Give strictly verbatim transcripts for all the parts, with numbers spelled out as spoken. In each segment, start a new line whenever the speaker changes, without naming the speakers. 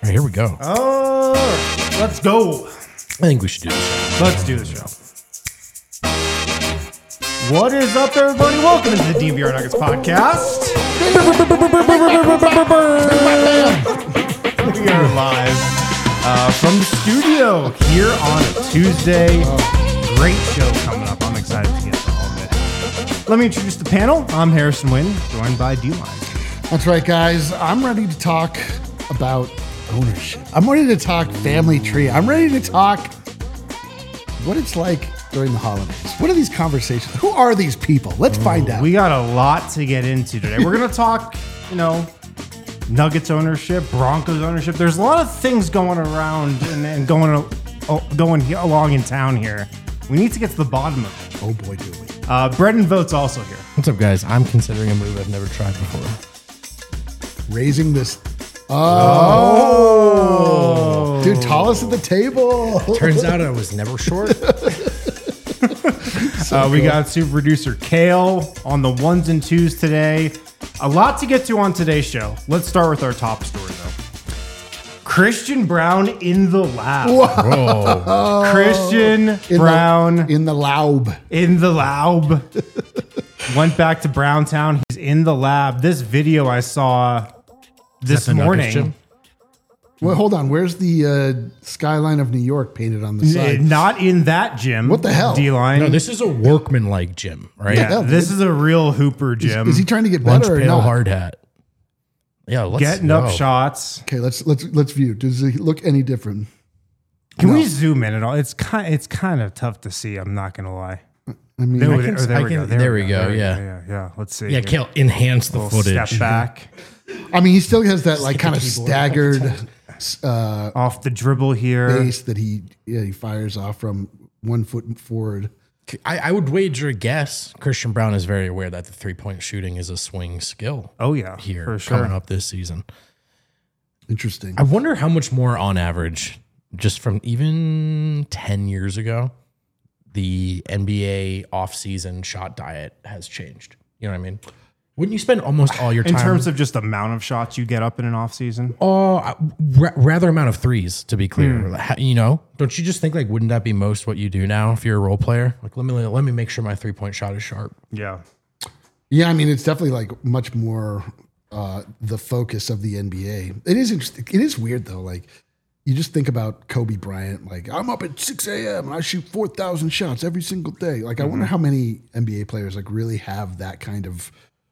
right, here we go.
Oh, let's go.
I think we should do this.
Let's do the show. What is up, everybody? Welcome to the D V R Nuggets podcast. We are live uh, from the studio here on a Tuesday. Great show coming up. I'm excited to get to all of it. Let me introduce the panel. I'm Harrison Wynn, joined by D-Line.
That's right, guys. I'm ready to talk about ownership. I'm ready to talk family tree. I'm ready to talk what it's like during the holidays. What are these conversations? Who are these people? Let's find out.
We got a lot to get into today. We're going to talk, you know, Nuggets ownership, Broncos ownership. There's a lot of things going around and, and going uh, going he- along in town here. We need to get to the bottom of it.
Oh boy, do we.
Uh, Brendan Vote's also here.
What's up, guys? I'm considering a move I've never tried before.
Raising this. Oh. oh. Dude, tallest at the table.
Turns out I was never short.
So uh, we cool. got super producer Kale on the ones and twos today. A lot to get to on today's show. Let's start with our top story, though. Christian Braun in the lab.
Whoa.
Christian
in
Braun
the, in the lab.
In the lab. Went back to Browntown. He's in the lab. This video I saw this morning.
Well, hold on. Where's the uh, skyline of New York painted on the side?
Not in that gym.
What the hell?
D-line.
No, this is a workman-like gym, right?
Yeah,
hell,
this is a real hooper gym.
Is, is he trying to get
Lunch
better or
pail
not?
hard hat. Yeah, let's
Getting
go.
up shots.
Okay, let's let's let's view. Does he look any different?
Can
No.
we zoom in at all? It's kind it's kind of tough to see. I'm not gonna lie.
I mean,
There,
I
we-
can-
or there
I
we
can-
go.
there we go,
There
yeah.
yeah, yeah. Let's see.
Yeah, Kale, enhance the
Little
footage.
Step back
I mean, he still has that like
Stick
kind
the
of
keyboard.
staggered uh,
off the dribble here.
base that he yeah he fires off from one foot forward.
I, I would wager a guess. Christian Braun is very aware that the three-point shooting is a swing skill
Oh yeah,
here
for sure.
coming up this season.
Interesting.
I wonder how much more on average, just from even ten years ago, the N B A offseason shot diet has changed. You know what I mean? Wouldn't you spend almost all your
In
time
terms of just the amount of shots you get up in an off season.
Oh, uh, ra- rather amount of threes, to be clear.
Hmm.
Ha- You know, don't you just think like, wouldn't that be most what you do now if you're a role player? Like, let me let me make sure my three point shot is sharp.
Yeah.
Yeah, I mean, it's definitely like much more uh, the focus of the N B A. It is interesting. It is weird though. Like you just think about Kobe Bryant. Like I'm up at six a.m. and I shoot four thousand shots every single day. Like I
Mm-hmm.
wonder how many N B A players like really have that kind of.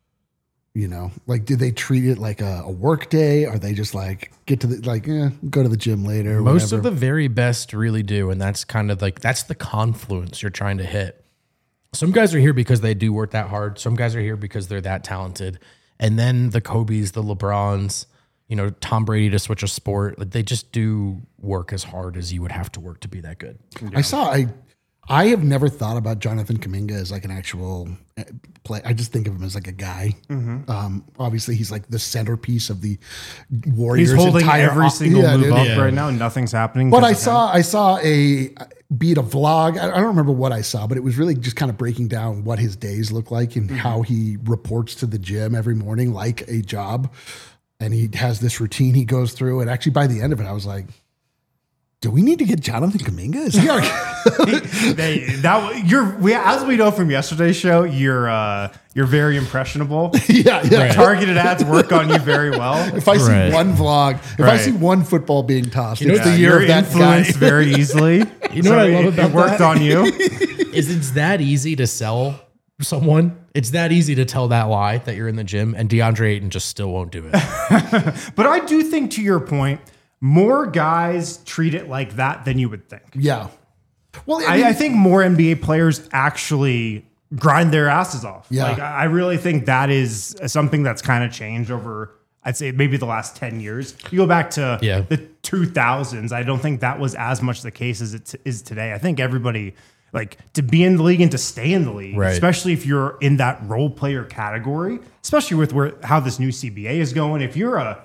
You know, like, do they treat it like a, a work day? Are they just like get to the like, eh, go to the gym later?
Most
whatever.
of the very best really do, and that's kind of like that's the confluence you're trying to hit. Some guys are here because they do work that hard. Some guys are here because they're that talented, and then the Kobe's, the LeBrons, you know, Tom Brady to switch a sport, like they just do work as hard as you would have to work to be that good.
I saw I I have never thought about Jonathan Kuminga as like an actual play. I just think of him as like a guy.
Mm-hmm.
Um, obviously, he's like the centerpiece of the Warriors.
He's holding
entire
every
off-
single
yeah,
move
dude.
up
Yeah.
right now. Nothing's happening.
But I
because of him.
saw I saw a beat a vlog. I I don't remember what I saw, but it was really just kind of breaking down what his days look like and
Mm-hmm.
how he reports to the gym every morning like a job. And he has this routine he goes through. And actually, by the end of it, I was like, do we need to get Jonathan Kuminga? Is he our
they, that you're we as we know from yesterday's show, you're uh, you're very impressionable.
yeah, yeah.
Right.
Targeted ads work on you very well.
If I see
Right.
one vlog, if I
Right.
see one football being tossed,
know
it's
what
the
the-
year
you're
of that guy.
influenced very easily.
You know what I love
it,
about
it worked
that?
on you.
Is it's that easy to sell someone? It's that easy to tell that lie that you're in the gym, and DeAndre Ayton just still won't do it.
But I do think, to your point, more guys treat it like that than you would think.
Yeah. Well, I, mean,
I, I think more N B A players actually grind their asses off.
Yeah.
Like, I I really think that is something that's kind of changed over, I'd say, maybe the last ten years. You go back to
Yeah.
the two thousands, I don't think that was as much the case as it t- is today. I think everybody, like, to be in the league and to stay in the league,
Right.
especially if you're in that role player category, especially with where how this new C B A is going. If you're a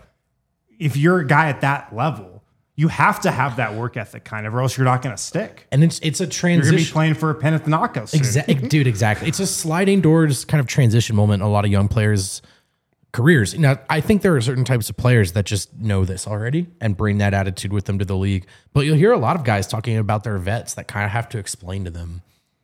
if you're a guy at that level, you have to have that work ethic kind of, or else you're not going to stick.
And it's it's a
You're going to be
transition.
playing for Panathinaikos soon.
Exactly, dude. Exactly. It's a sliding doors kind of transition moment. A lot of young players careers. Now, I think there are certain types of players that just know this already and bring that attitude with them to the league. But you'll hear a lot of guys talking about their vets that kind of have to explain to them.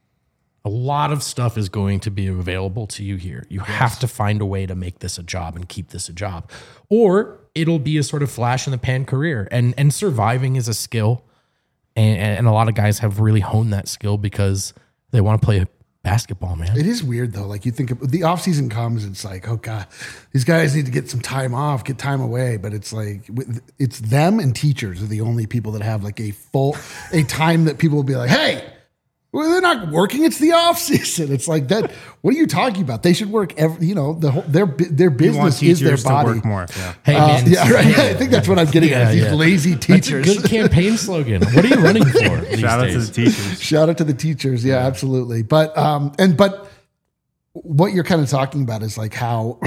A lot of stuff is going to be available to you here. You yes. have to find a way to make this a job and keep this a job. Or it'll be a sort of flash in the pan career. And and surviving is a skill. And, and a lot of guys have really honed that skill because they want to play basketball, man.
It is weird though. Like you think of, the off season comes, it's like, oh God, these guys need to get some time off, get time away. But it's like, it's them and teachers are the only people that have like a full, a time that people will be like, hey, well, they're not working. It's the off season. It's like that. What are you talking about? They should work every, you know, the whole, their, their business is their body.
To work more. Yeah.
Hey,
uh,
man.
Yeah, right. I think that's what I'm getting
yeah,
at. These
yeah.
lazy teachers.
That's a good campaign slogan. What are you running for? These
Shout
days?
out to the teachers.
Shout out to the teachers. Yeah, yeah, absolutely. But, um, and, but what you're kind of talking about is like how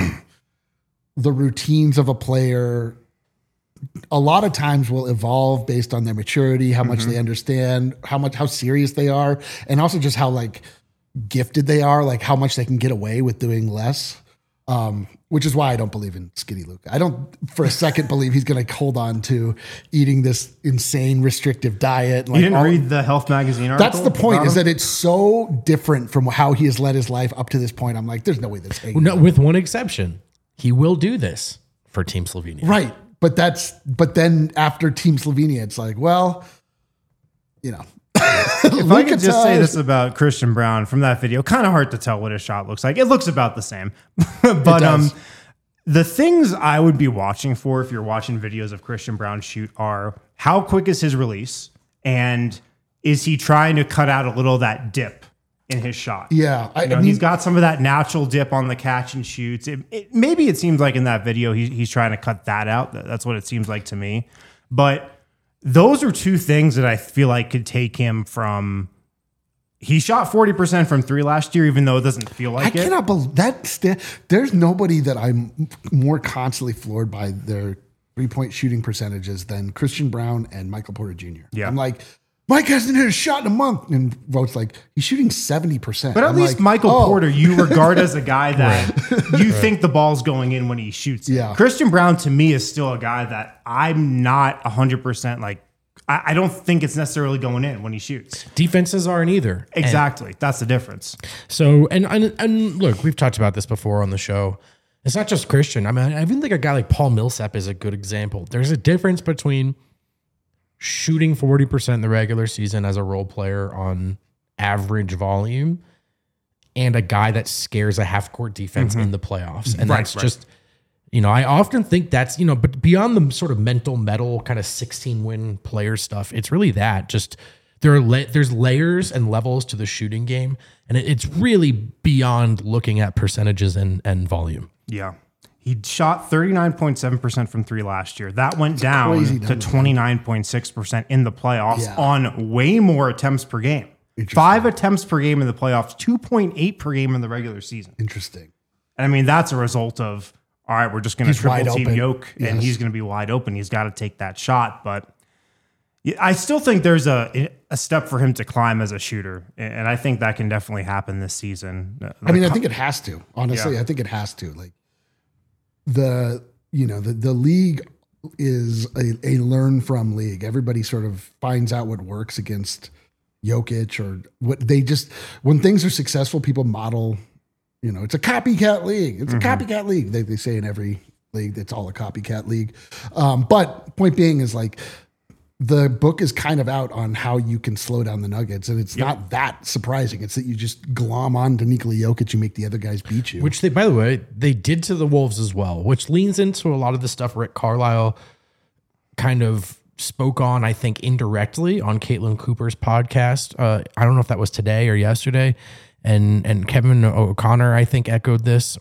the routines of a player a lot of times will evolve based on their maturity, how much mm-hmm. they understand, how much, how serious they are, and also just how like gifted they are, like how much they can get away with doing less. Um, which is why I don't believe in Skinny Luke. I don't for a second believe he's going to hold on to eating this insane restrictive diet. Like
you didn't
all,
read the Health Magazine article?
That's the point, is that it's so different from how he has led his life up to this point. I'm like, there's no way this
well, no, with one exception. He will do this for Team Slovenia.
Right. But that's, but then after Team Slovenia, it's like, well, you know.
If I could just say this about Christian Braun from that video, kind of hard to tell what his shot looks like. It looks about the same. But um, the things I would be watching for if you're watching videos of Christian Braun shoot are how quick is his release, and is he trying to cut out a little of that dip in his shot?
Yeah.
I, you know, I mean, he's got some of that natural dip on the catch and shoots. It, it, maybe it seems like in that video he, he's trying to cut that out. That's what it seems like to me. But those are two things that I feel like could take him from. He shot forty percent from three last year, even though it doesn't feel like
I
it. I
cannot believe that. St- there's nobody that I'm more constantly floored by their three-point shooting percentages than Christian Braun and Michael Porter Junior
Yeah.
I'm like, Mike hasn't hit a shot in a month. And Vote's like, he's shooting seventy percent.
But at
I'm
least
like,
Michael
oh.
Porter, you regard as a guy that you right. think the ball's going in when he shoots it.
Yeah.
Christian Braun, to me, is still a guy that I'm not one hundred percent like, I, I don't think it's necessarily going in when he shoots.
Defenses aren't either.
Exactly.
And
that's the difference.
So, and, and and look, we've talked about this before on the show. It's not just Christian. I mean, I even think a guy like Paul Millsap is a good example. There's a difference between shooting forty percent in the regular season as a role player on average volume and a guy that scares a half-court defense mm-hmm. in the playoffs. And
right,
that's
right.
just, you know, I often think that's, you know, but beyond the sort of mental metal kind of sixteen-win player stuff, it's really that. Just there are la- there's layers and levels to the shooting game, and it, it's really beyond looking at percentages and, and volume.
Yeah. He shot thirty-nine point seven percent from three last year. That went down to twenty-nine point six percent in the playoffs yeah. on way more attempts per game. Five attempts per game in the playoffs, two point eight per game in the regular season.
Interesting.
And I mean, that's a result of, all right, we're just going to triple team
open.
Yoke,
yes.
and he's going to be wide open. He's got to take that shot. But I still think there's a a step for him to climb as a shooter. And I think that can definitely happen this season.
I mean, I think it has to. Honestly, yeah. I think it has to. Like, The you know the, the league is a, a learn from league. Everybody sort of finds out what works against Jokic, or what they just when things are successful, people model. You know, it's a copycat league. It's mm-hmm. a copycat league. They they say in every league, it's all a copycat league. Um, but point being is like the book is kind of out on how you can slow down the Nuggets, and it's yep. not that surprising. It's that you just glom on to Nikola Jokic and make the other guys beat you.
Which they, by the way, they did to the Wolves as well, which leans into a lot of the stuff Rick Carlisle kind of spoke on, I think, indirectly on Caitlin Cooper's podcast. Uh, I don't know if that was today or yesterday, and and Kevin O'Connor, I think, echoed this.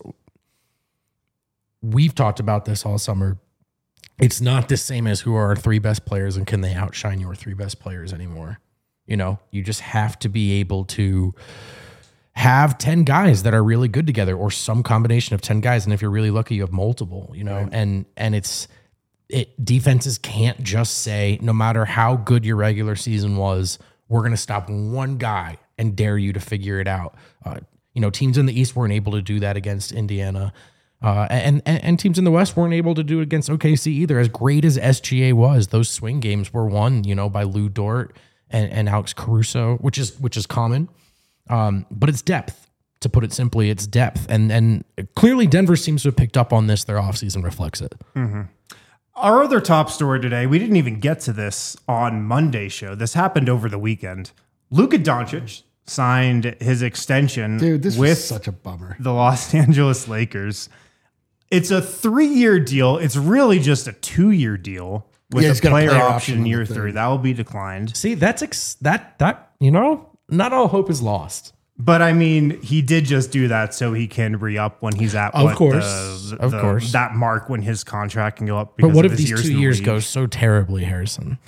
We've talked about this all summer. It's not the same as who are our three best players and can they outshine your three best players anymore. You know, you just have to be able to have ten guys that are really good together, or some combination of ten guys. And if you're really lucky, you have multiple, you know, right. and, and it's, it defenses can't just say, no matter how good your regular season was, we're going to stop one guy and dare you to figure it out. Uh, you know, teams in the East weren't able to do that against Indiana. Uh, and, and and teams in the West weren't able to do it against O K C either. As great as S G A was, those swing games were won, you know, by Lou Dort and, and Alex Caruso, which is which is common. Um, but it's depth. To put it simply, it's depth. And and clearly Denver seems to have picked up on this. Their offseason reflects it.
Mm-hmm. Our other top story today, we didn't even get to this on Monday's show. This happened over the weekend. Luka Doncic signed his extension
Dude, this
with
was such a bummer.
the Los Angeles Lakers. It's a three-year deal. It's really just a two-year deal with
Yeah,
a
he's got a
player,
player
option
option
in
on the
year
third.
three. That will be declined.
See, that's ex- that that you know, not all hope is lost.
But I mean, he did just do that so he can re-up when he's at
Of
what,
course.
the-
Of
the-
course.
that mark when his contract can go up.
But
because
what
of
if
his
these two
in the
years
league.
go so terribly, Harrison?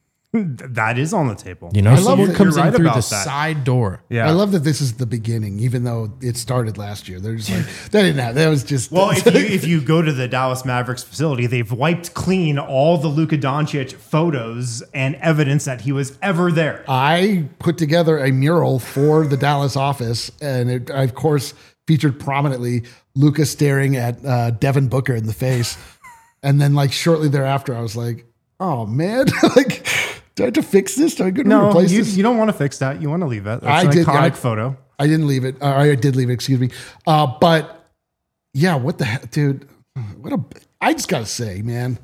That is on the table.
You know,
I love
someone
that
comes
you're
in
right
through the
about that.
side door.
Yeah.
I love that this is the beginning, even though it started last year. They're just like, they didn't have, that was just.
Well, if you if you go to the Dallas Mavericks facility, they've wiped clean all the Luka Doncic photos and evidence that he was ever there.
I put together a mural for the Dallas office, and it, I, of course, featured prominently Luka staring at uh, Devin Booker in the face. And then, like, shortly thereafter, I was like, oh, man, like, do I have to fix this? Do I go to
No,
replace
you,
this?
you don't want to fix that. You want to leave it. That's
I
an
did,
iconic
I-
photo.
I didn't leave it. Uh, I did leave it, excuse me. Uh, but, yeah, what the heck, dude? What a, I just got to say, man,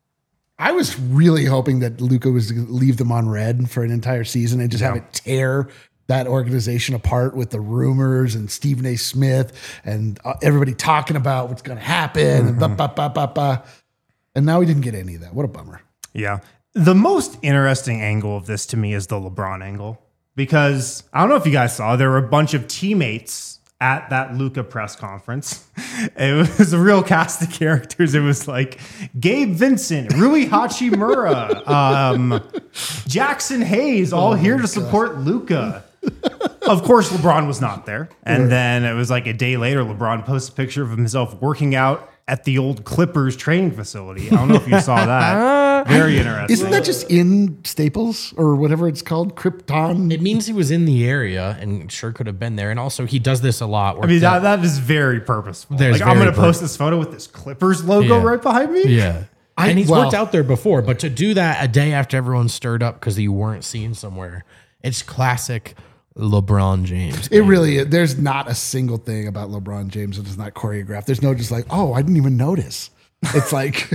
I was really hoping that Luka was going to leave them on red for an entire season and just have it tear that organization apart with the rumors and Stephen A. Smith and uh, everybody talking about what's going to happen. And, ba, ba, ba, ba, ba. And now we didn't get any of that. What a bummer.
Yeah. The most interesting angle of this to me is the LeBron angle, because I don't know if you guys saw, there were a bunch of teammates at that Luka press conference. It was a real cast of characters. It was like Gabe Vincent, Rui Hachimura, um, Jackson Hayes, all here to support Luka. Of course, LeBron was not there. And then it was like a day later, LeBron posts a picture of himself working out at the old Clippers training facility. I don't know if you saw that. Very interesting.
Isn't that just in Staples or whatever it's called? Krypton?
It means he was in the area and sure could have been there. And also, he does this a lot.
I mean, that, that is very purposeful.
There's
Like, I'm
very
going to
pur-
post this photo with this Clippers logo
Yeah.
right behind me.
yeah.
I-
and he's
well-
worked out there before, but to do that a day after everyone stirred up because you weren't seen somewhere, it's classic LeBron James.
It really is. There's not a single thing about LeBron James that is not choreographed. There's no just like, oh, I didn't even notice. It's like,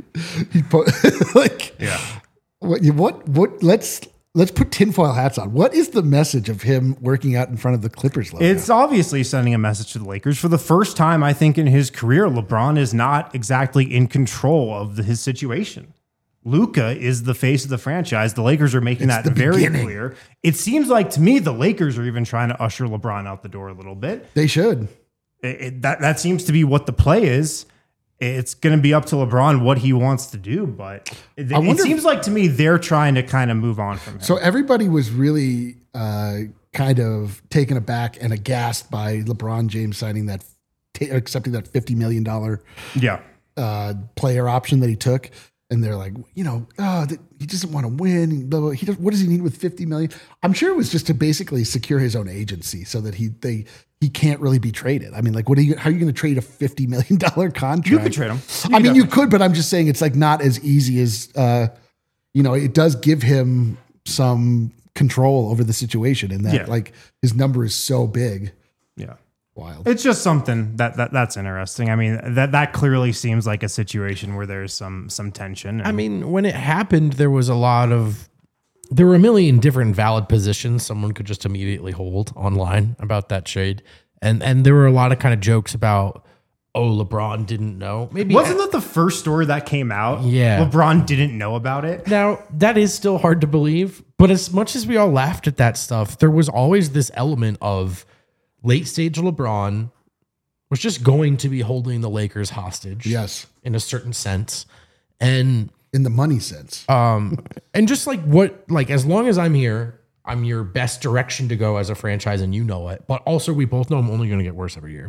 he put, like,
Yeah.
what, what, what, let's, let's put tinfoil hats on. What is the message of him working out in front of the Clippers logo?
It's obviously sending a message to the Lakers. For the first time, I think, in his career, LeBron is not exactly in control of the, his situation. Luka is the face of the franchise. The Lakers are making
It's
that
the
very
beginning.
clear. It seems like to me the Lakers are even trying to usher LeBron out the door a little bit.
They should.
It, it- that that seems to be what the play is. It's going to be up to LeBron what he wants to do, but it,
I
it
wonder-
seems like to me they're trying to kind of move on from him.
So everybody was really uh, kind of taken aback and aghast by LeBron James signing that, t- accepting that fifty million dollars
yeah.
uh, player option that he took. And they're like, you know, oh, th- he doesn't want to win. Blah, blah. He does, what does he need with fifty million? I'm sure it was just to basically secure his own agency so that he they he can't really be traded. I mean, like, what are you? How are you going to trade a fifty million dollar contract?
You could trade him.
I mean, you could, but I'm just saying it's like not as easy as uh, you know. It does give him some control over the situation, and that
Yeah.
like his number is so big.
Yeah.
Wild.
It's just something that, that that's interesting. I mean, that that clearly seems like a situation where there's some some tension.
I mean, when it happened, there was a lot of, there were a million different valid positions someone could just immediately hold online about that trade. And and there were a lot of kind of jokes about, oh, LeBron didn't know. Maybe
wasn't that the first story that came out?
Yeah.
LeBron didn't know about it.
Now, that is still hard to believe, but as much as we all laughed at that stuff, there was always this element of late stage LeBron was just going to be holding the Lakers hostage.
Yes,
In a certain sense. And
in the money sense.
um and just like what like as long as I'm here, I'm your best direction to go as a franchise and you know it. But also we both know I'm only going to get worse every year.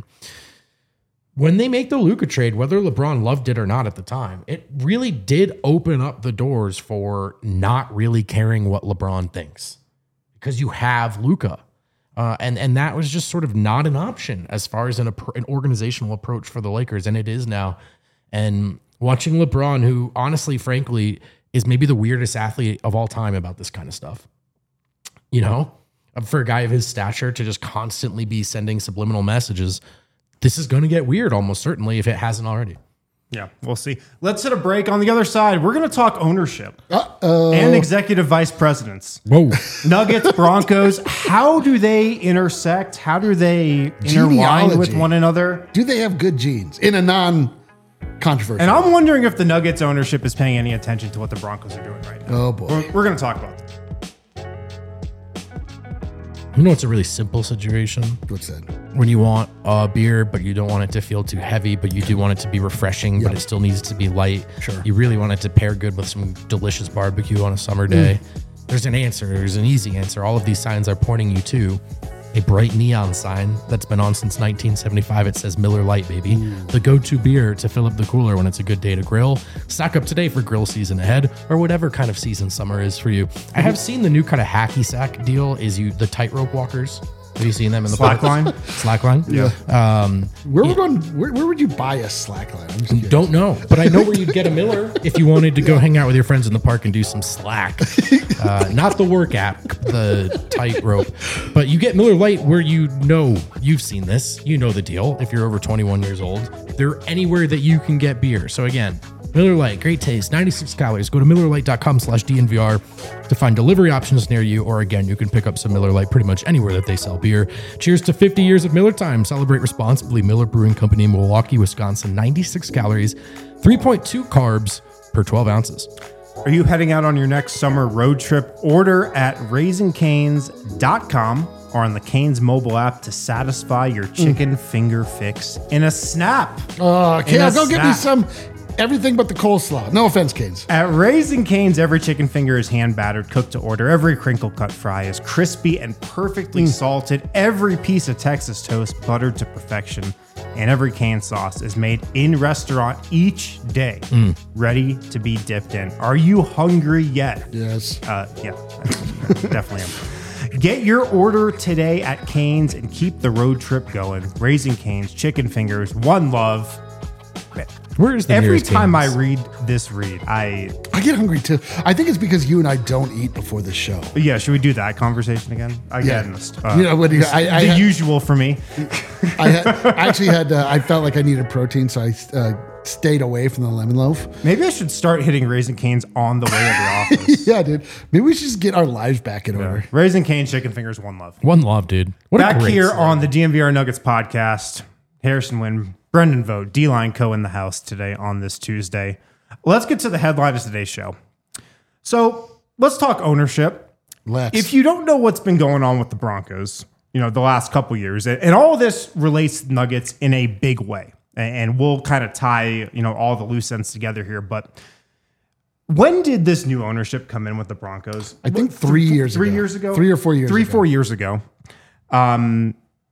When they make the Luka trade, whether LeBron loved it or not at the time, it really did open up the doors for not really caring what LeBron thinks. Because you have Luka. Uh, and and that was just sort of not an option as far as an, an organizational approach for the Lakers, and it is now. And watching LeBron, who honestly, frankly, is maybe the weirdest athlete of all time about this kind of stuff, you know, for a guy of his stature to just constantly be sending subliminal messages, this is going to get weird almost certainly if it hasn't already.
Yeah, we'll see. Let's hit a break. On the other side, we're going to talk ownership
Uh-oh.
and executive vice presidents.
Whoa.
Nuggets, Broncos, how do they intersect? How do they intertwine
Genealogy.
with one another?
Do they have good genes in a non-controversial?
And I'm wondering if the Nuggets ownership is paying any attention to what the Broncos are doing right now.
Oh, boy.
We're, we're going to talk about that.
You know, it's a really simple situation.
What's that?
When you want a beer, but you don't want it to feel too heavy, but you do want it to be refreshing,
Yep.
but it still needs to be light.
Sure.
You really want it to pair good with some delicious barbecue on a summer day.
Mm.
There's an answer. There's an easy answer. All of these signs are pointing you to a bright neon sign that's been on since nineteen seventy-five. It says Miller Lite, baby.
Mm.
The go-to beer to fill up the cooler when it's a good day to grill. Stock up today for grill season ahead, or whatever kind of season summer is for you. I have seen the new kind of hacky sack deal is you the tightrope walkers. Have you seen them in the
Slackline?
Slackline?
Yeah.
Um,
Where would one? Where, where would you buy a slackline? I'm just curious.
don't know, but I know where you'd get a Miller if you wanted to go hang out with your friends in the park and do some slack. Uh, not the work app, the tightrope, but you get Miller Lite where you know you've seen this. You know the deal. If you're over twenty-one years old, they're anywhere that you can get beer. So again, Miller Lite, great taste, ninety-six calories. Go to Miller Lite dot com slash D N V R to find delivery options near you. Or again, you can pick up some Miller Lite pretty much anywhere that they sell beer. Cheers to fifty years of Miller time. Celebrate responsibly. Miller Brewing Company, Milwaukee, Wisconsin. ninety-six calories, three point two carbs per twelve ounces.
Are you heading out on your next summer road trip? Order at raising canes dot com or on the Canes mobile app to satisfy your chicken mm. finger fix in a snap.
Oh,
In
Kale,
a
go get me
snap.
some. Everything but the coleslaw. No offense, Canes.
At Raising Cane's, every chicken finger is hand battered, cooked to order. Every crinkle cut fry is crispy and perfectly
Mm.
salted. Every piece of Texas toast buttered to perfection. And every cane sauce is made in restaurant each day,
Mm.
ready to be dipped in. Are you hungry yet?
Yes.
Uh, yeah, definitely am. Get your order today at Cane's and keep the road trip going. Raising Cane's, chicken fingers, one love.
Where is the
Every
nearest
time
Cane's?
I read this read, I
I get hungry too. I think it's because you and I don't eat before the show.
yeah. Should we do that conversation again? Again,
Yeah.
uh,
You know, when you- I- I
the
had-
usual for me.
I, had, I actually had. Uh, I felt like I needed protein, so I uh, stayed away from the lemon loaf.
Maybe I should start hitting Raising Cane's on the way to the office.
Yeah, dude. Maybe we should just get our lives back in order.
Raising Cane's, chicken fingers, one love.
One love, dude. What a
Back
great
here
slogan.
on the D N V R Nuggets podcast, Harrison Wynn, Brendan Vogt, D-Line Co. in the house today on this Tuesday. Let's get to the headline of today's show. So let's talk ownership.
Let's.
If you don't know what's been going on with the Broncos, you know, the last couple years, and all of this relates to Nuggets in a big way, and we'll kind of tie, you know, all the loose ends together here. But when did this new ownership come in with the Broncos?
I think three years
Three
ago.
years ago?
Three or four years
Three,
ago.
four years ago. Um,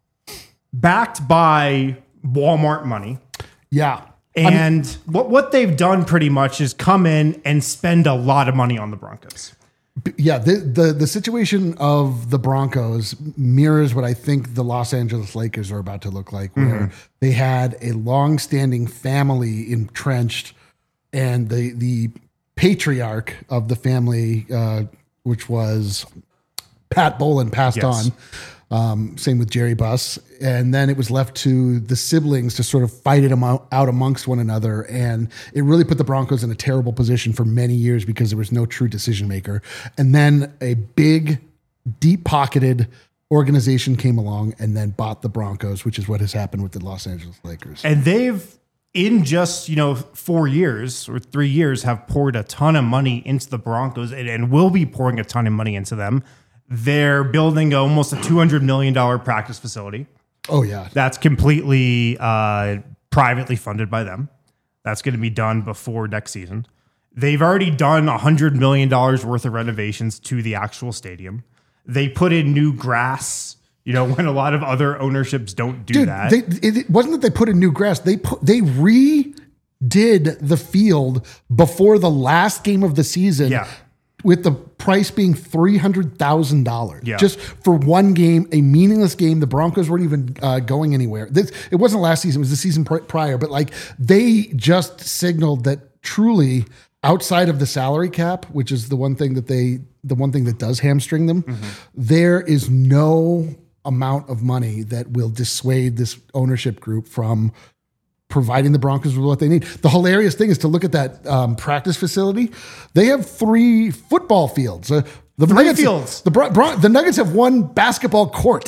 backed by Walmart money.
Yeah.
And what, what they've done pretty much is come in and spend a lot of money on the Broncos.
Yeah, the, the the situation of the Broncos mirrors what I think the Los Angeles Lakers are about to look like, where
Mm-hmm.
they had a long-standing family entrenched, and the the patriarch of the family, uh, which was Pat Bolin, passed
Yes.
on. Um, same with Jerry Buss. And then it was left to the siblings to sort of fight it amo- out amongst one another. And it really put the Broncos in a terrible position for many years because there was no true decision maker. And then a big, deep pocketed organization came along and then bought the Broncos, which is what has happened with the Los Angeles Lakers.
And they've, in just, you know, four years or three years, have poured a ton of money into the Broncos and, and will be pouring a ton of money into them. They're building almost a two hundred million dollars practice facility.
Oh, yeah.
That's completely uh, privately funded by them. That's going to be done before next season. They've already done one hundred million dollars worth of renovations to the actual stadium. They put in new grass, you know, when a lot of other ownerships don't do
Dude,
that.
they, it, it wasn't that they put in new grass. They put, they redid the field before the last game of the season.
Yeah.
with the price being three hundred thousand dollars
Yeah.
just for one game, a meaningless game. The Broncos weren't even uh, going anywhere. This, it wasn't last season; it was the season pr- prior. But like they just signaled that truly, outside of the salary cap, which is the one thing that they, the one thing that does hamstring them, mm-hmm. there is no amount of money that will dissuade this ownership group from providing the Broncos with what they need. The hilarious thing is to look at that um, practice facility. They have three football fields. Uh, the
Three
Nuggets,
fields.
The, Bron- Bron- the Nuggets have one basketball court.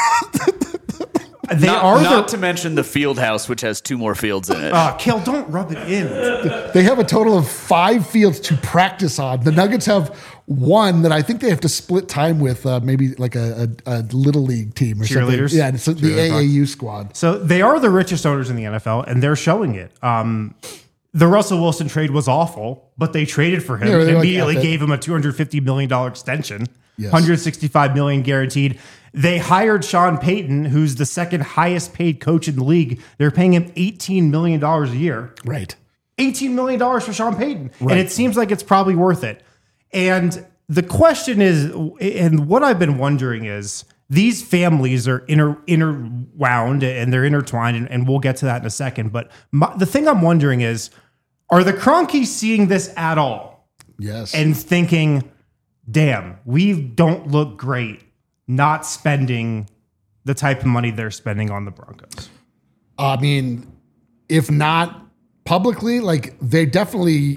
They
not,
are
not
the,
to mention the field house, which has two more fields in it.
uh, Kale, don't rub it in.
They have a total of five fields to practice on. The Nuggets have one that I think they have to split time with, uh, maybe like a, a, a little league team or
Cheerleaders?
something. Yeah, it's the A A U squad.
So they are the richest owners in the N F L, and they're showing it. Um, the Russell Wilson trade was awful, but they traded for him
Yeah,
and
they're like,
immediately
"F it."
gave him a two hundred fifty million dollars extension,
Yes.
one hundred sixty-five million dollars guaranteed. They hired Sean Payton, who's the second highest paid coach in the league. They're paying him eighteen million dollars a year.
Right.
eighteen million dollars for Sean Payton.
Right.
And it seems like it's probably worth it. And the question is, and what I've been wondering is, these families are inter, interwound and they're intertwined, and, and we'll get to that in a second. But my, the thing I'm wondering is, are the Kroenkes seeing this at all
Yes.
and thinking, damn, we don't look great not spending the type of money they're spending on the Broncos?
I mean, if not publicly, like they definitely,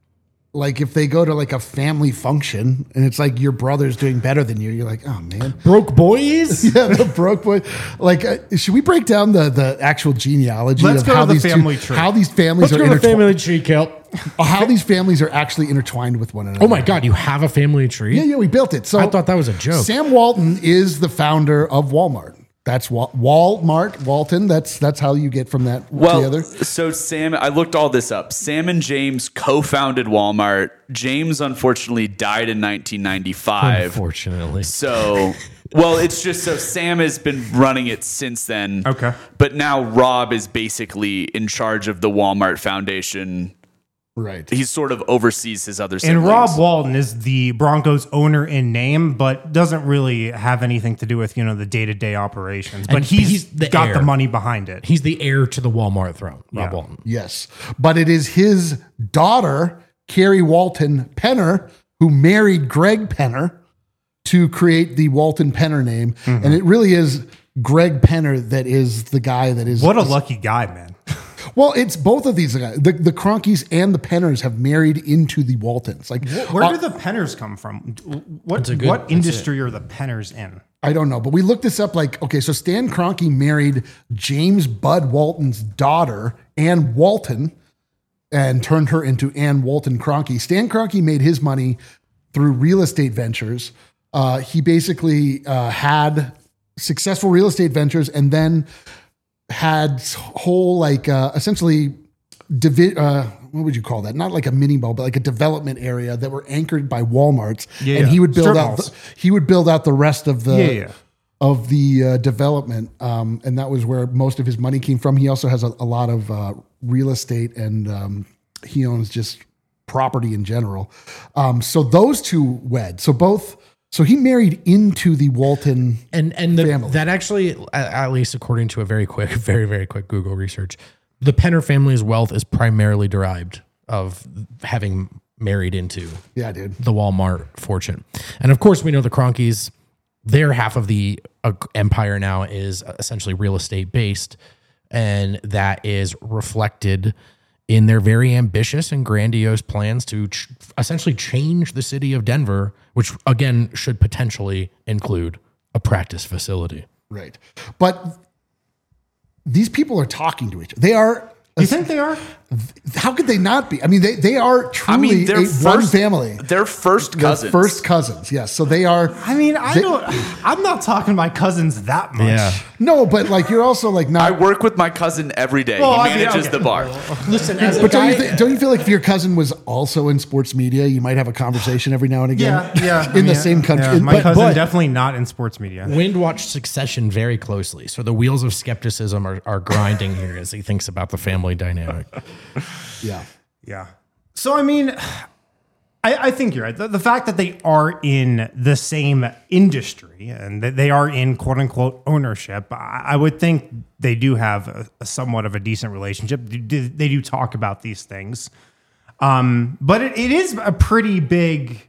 like if they go to like a family function and it's like your brother's doing better than you, you're like, oh man,
Broke boys?
yeah, the broke boy. Like, uh, should we break down the the actual genealogy
Let's
of
go
how
to the
these
family
two,
tree.
how these families
Let's
are
go to the
intertwined,
family tree, Kelp.
how these families are actually intertwined with one another.
Oh my God, you have a family tree?
Yeah, yeah, we built it. So
I thought that was a joke.
Sam Walton is the founder of Walmart. That's Wal- Walmart, Walton. That's that's how you get from that
Well,
to the other.
so Sam, I looked all this up. Sam and James co-founded Walmart. James unfortunately died in nineteen ninety-five.
Unfortunately.
So, well, it's just so Sam has been running it since then.
Okay.
But now Rob is basically in charge of the Walmart Foundation.
Right.
He sort of oversees his other siblings.
And Rob Walton is the Broncos owner in name, but doesn't really have anything to do with, you know, the day-to-day operations. But
And
he's,
he's the
got
heir.
the money behind it.
He's the heir to the Walmart throne, Rob
Yeah.
Walton.
Yes. But it is his daughter, Carrie Walton Penner, who married Greg Penner to create the Walton Penner name.
Mm-hmm.
And it really is Greg Penner that is the guy that is.
What a lucky guy, man.
Well, it's both of these guys. The, the Kroenkes and the Penners have married into the Waltons. Like,
Where
uh,
do the Penners come from? What,
a good-
what
that's
industry are the Penners in?
I don't know, but we looked this up. Like, okay, so Stan Kroenke married James Bud Walton's daughter, Ann Walton, and turned her into Ann Walton Kroenke. Stan Kroenke made his money through real estate ventures. Uh, he basically uh, had successful real estate ventures and then had whole, like, uh, essentially, divi- uh, what would you call that? Not like a mini mall, but like a development area that were anchored by Walmarts.
Yeah,
and
yeah.
he would build
Strip
out,
malls.
the, he would build out the rest of the,
Yeah, yeah.
of the uh, development. Um, and that was where most of his money came from. He also has a, a lot of uh, real estate and um, he owns just property in general. Um, so those two wed. So both, so he married into the Walton.
And and the,
Family.
that actually, at, at least according to a very quick, very, very quick Google research, the Penner family's wealth is primarily derived of having married into
Yeah, dude.
the Walmart fortune. And of course, we know the Kroenkes, their half of the uh, empire now is essentially real estate based. And that is reflected in their very ambitious and grandiose plans to ch- essentially change the city of Denver, which again should potentially include a practice facility.
Right. But these people are talking to each other. They are.
Do you think they are?
How could they not be? I mean, they, they are truly
I mean, they're
a, one
first
family.
They're first
They're
cousins.
first cousins. Yes. So they are.
I mean, I
They-
don't. I'm not talking my cousins that much.
No, but like you're also like
I
not.
work with my cousin every day.
Well,
he
I mean,
manages
okay.
the bar.
Listen, as a
But don't
guy,
you, th- don't you feel like if your cousin was also in sports media, you might have a conversation every now and again?
Yeah, yeah.
in
I mean,
the same country.
yeah, my
But-
cousin
but-
definitely not in sports media.
Wind watched Succession very closely, so the wheels of skepticism are, are grinding here as he thinks about the family dynamic.
yeah.
Yeah. So I mean, I, I think you're right. The, the fact that they are in the same industry and that they are in quote unquote ownership, I, I would think they do have a, a somewhat of a decent relationship. They do, they do talk about these things. Um, but it, it is a pretty big,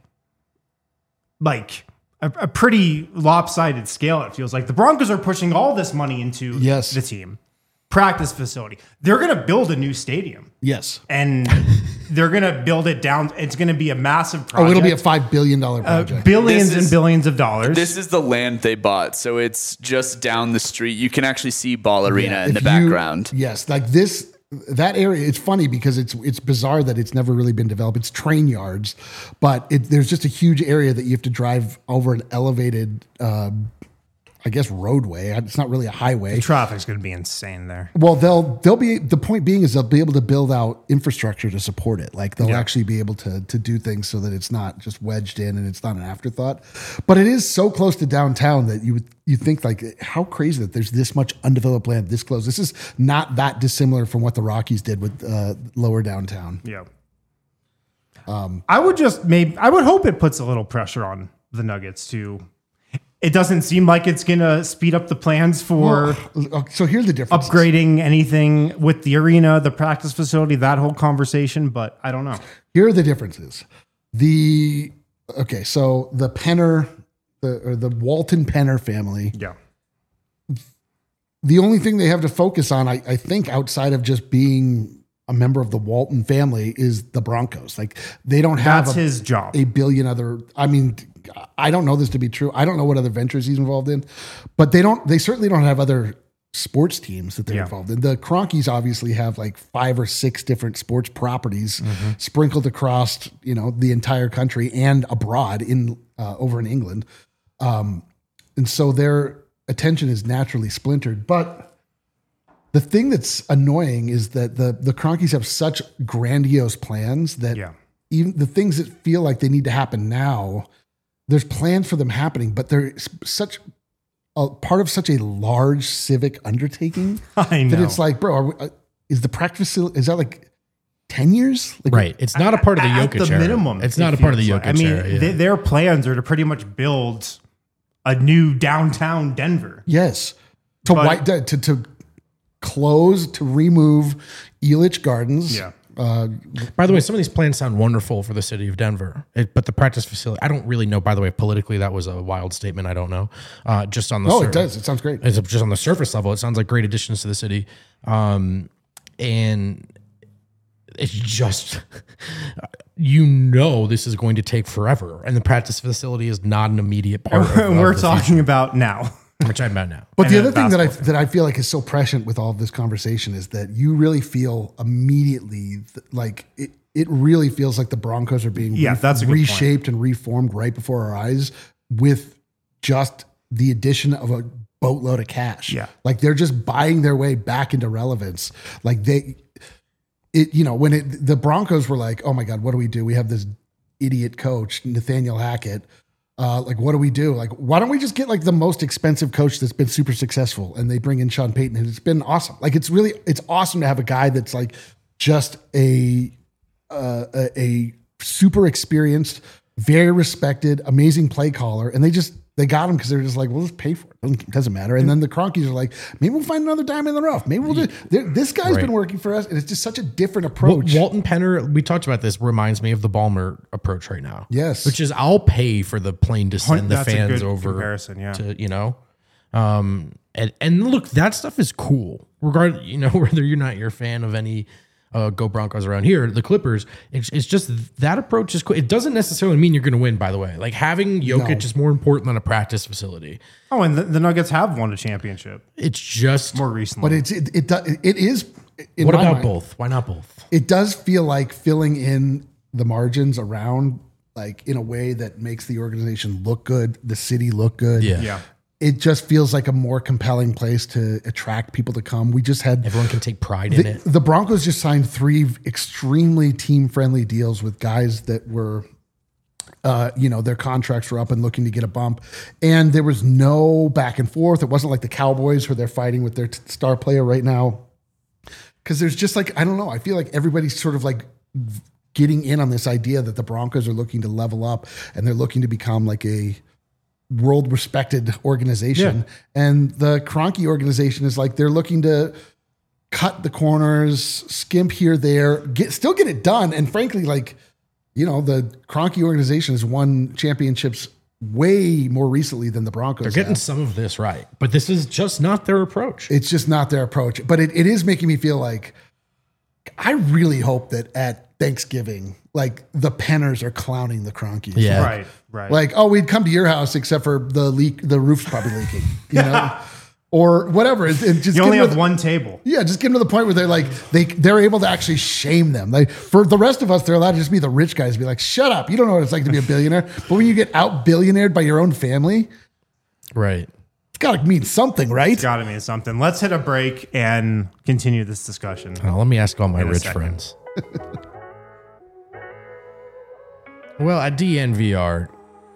like a, a pretty lopsided scale. It feels like the Broncos are pushing all this money into
Yes.
the team. Practice facility. They're going to build a new stadium.
Yes.
And they're going to build it down. It's going to be a massive project.
Oh, it'll be a five billion dollar
Uh,
project.
billions
This
and
is-
billions of dollars.
This is the land they bought, so it's just down the street. You can actually see Ball Arena
Yeah,
in the
if you-
background.
Yes, like this that area. It's funny because it's it's bizarre that it's never really been developed. It's train yards, but it, there's just a huge area that you have to drive over an elevated, uh, I guess, roadway. It's not really a highway.
Traffic's going to be insane there.
Well, they'll they'll be the point being is they'll be able to build out infrastructure to support it. Like they'll
Yeah.
actually be able to to do things so that it's not just wedged in and it's not an afterthought. But it is so close to downtown that you would you think like how crazy that there's this much undeveloped land this close. This is not that dissimilar from what the Rockies did with uh, lower downtown.
Yeah. Um, I would just maybe I would hope it puts a little pressure on the Nuggets to. It doesn't seem like it's going to speed up the plans for
Well, so here's the difference.
upgrading anything with the arena, the practice facility, that whole conversation. But I don't know.
Here are the differences. The okay, so the Penner, the or the Walton Penner family.
Yeah.
The only thing they have to focus on, I, I think, outside of just being a member of the Walton family, is the Broncos. Like they don't have
That's
a,
his job.
a billion other. I mean, I don't know this to be true. I don't know what other ventures he's involved in, but they don't. They certainly don't have other sports teams that they're
Yeah.
involved in. The Cronkies obviously have like five or six different sports properties
Mm-hmm.
sprinkled across, you know, the entire country and abroad in uh, over in England, um, and so their attention is naturally splintered. But the thing that's annoying is that the the Cronkies have such grandiose plans that
Yeah.
even the things that feel like they need to happen now, there's plans for them happening, but they're s- such a part of such a large civic undertaking
I know.
that it's like, bro, are we, uh, is the practice facility, is that like ten years? Like,
Right. It's not a part of the
At
Jokic
the
era.
minimum.
It's
it
not a part of the
feels
Jokic
like. I mean,
era. Yeah.
they- their plans are to pretty much build a new downtown Denver.
Yes. To
But-
white, to, to, to close, to remove Elitch Gardens.
Yeah.
Uh,
By the way, some of these plans sound wonderful for the city of Denver, it, but the practice facility, I don't really know. By the way, politically, that was a wild statement. I don't know. Uh, just on the
oh,
sur-
it does. It sounds great.
It's just on the surface level, it sounds like great additions to the city, um, and it's just you know this is going to take forever, and the practice facility is not an immediate part. of, of
We're
the
talking about now.
future, which I'm about now.
But the
And
other
a
thing that I
basketball
that I feel like is so prescient with all of this conversation is that you really feel immediately th- like it. It really feels like the Broncos are being
Yeah, that's a good point.
reshaped and reformed right before our eyes with just the addition of a boatload of cash.
Yeah.
like they're just buying their way back into relevance. Like they, it you know when it the Broncos were like, oh my god, what do we do? We have this idiot coach Nathaniel Hackett. Uh, like, what do we do? Like, why don't we just get like the most expensive coach that's been super successful, and they bring in Sean Payton, and it's been awesome. Like, it's really, it's awesome to have a guy that's like just a uh, a, a super experienced, very respected, amazing play caller, and they just they got him because they're just like, we'll just pay for it. Doesn't, doesn't matter. And then the Cronkies are like, maybe we'll find another diamond in the rough. Maybe we'll do. This guy's
Right.
been working for us, and it's just such a different
Wal-
approach.
Walton Penner, we talked about this, reminds me of the Balmer approach right now.
Yes.
Which is I'll pay for the plane to send the
That's a
fans
good
over
comparison, yeah.
to, you know. Um and and look, that stuff is cool. Regard, you know, whether you're not your fan of any uh, Go Broncos around here, the Clippers, it's, it's just that approach is cool. It doesn't necessarily mean you're going to win, by the way. Like having Jokic
No.
is more important than a practice facility.
Oh, and the, the Nuggets have won a championship
It's just
more recently.
but it's it it, do- it is. In
what
my
about
mind,
both? Why not both?
it does feel like filling in the margins around, like in a way that makes the organization look good, the city look good.
Yeah.
yeah.
It just feels like a more compelling place to attract people to come. We just had
Everyone can take pride in
the,
it.
the Broncos just signed three extremely team friendly deals with guys that were, uh, you know, their contracts were up and looking to get a bump. And there was no back and forth. It wasn't like the Cowboys where they're fighting with their t- star player right now. Cause there's just like, I don't know. I feel like everybody's sort of like getting in on this idea that the Broncos are looking to level up and they're looking to become like a world respected organization. Yeah. And the Kroenke organization is like, they're looking to cut the corners, skimp here, there, get, still get it done. And frankly, like, you know, the Kroenke organization has won championships way more recently than the Broncos.
They're getting
have.
some of this right, but this is just not their approach.
It's just not their approach. But it, it is making me feel like, I really hope that at Thanksgiving, like the Penners are clowning the Kroenkes.
Yeah.
Right, right.
Like, oh, we'd come to your house except for the leak, the roof's probably leaking, you know, or whatever. It, it just
you only have
the,
one table.
Yeah, just get them to the point where they're like, they, they're able to actually shame them. Like for the rest of us, they're allowed to just be the rich guys and be like, shut up. You don't know what it's like to be a billionaire. But when you get out billionaired by your own family,
right.
It's got to mean something, right?
It's got to mean something. Let's hit a break and continue this discussion.
Now, let me ask all my
In a
rich
second.
friends. Well, at D N V R,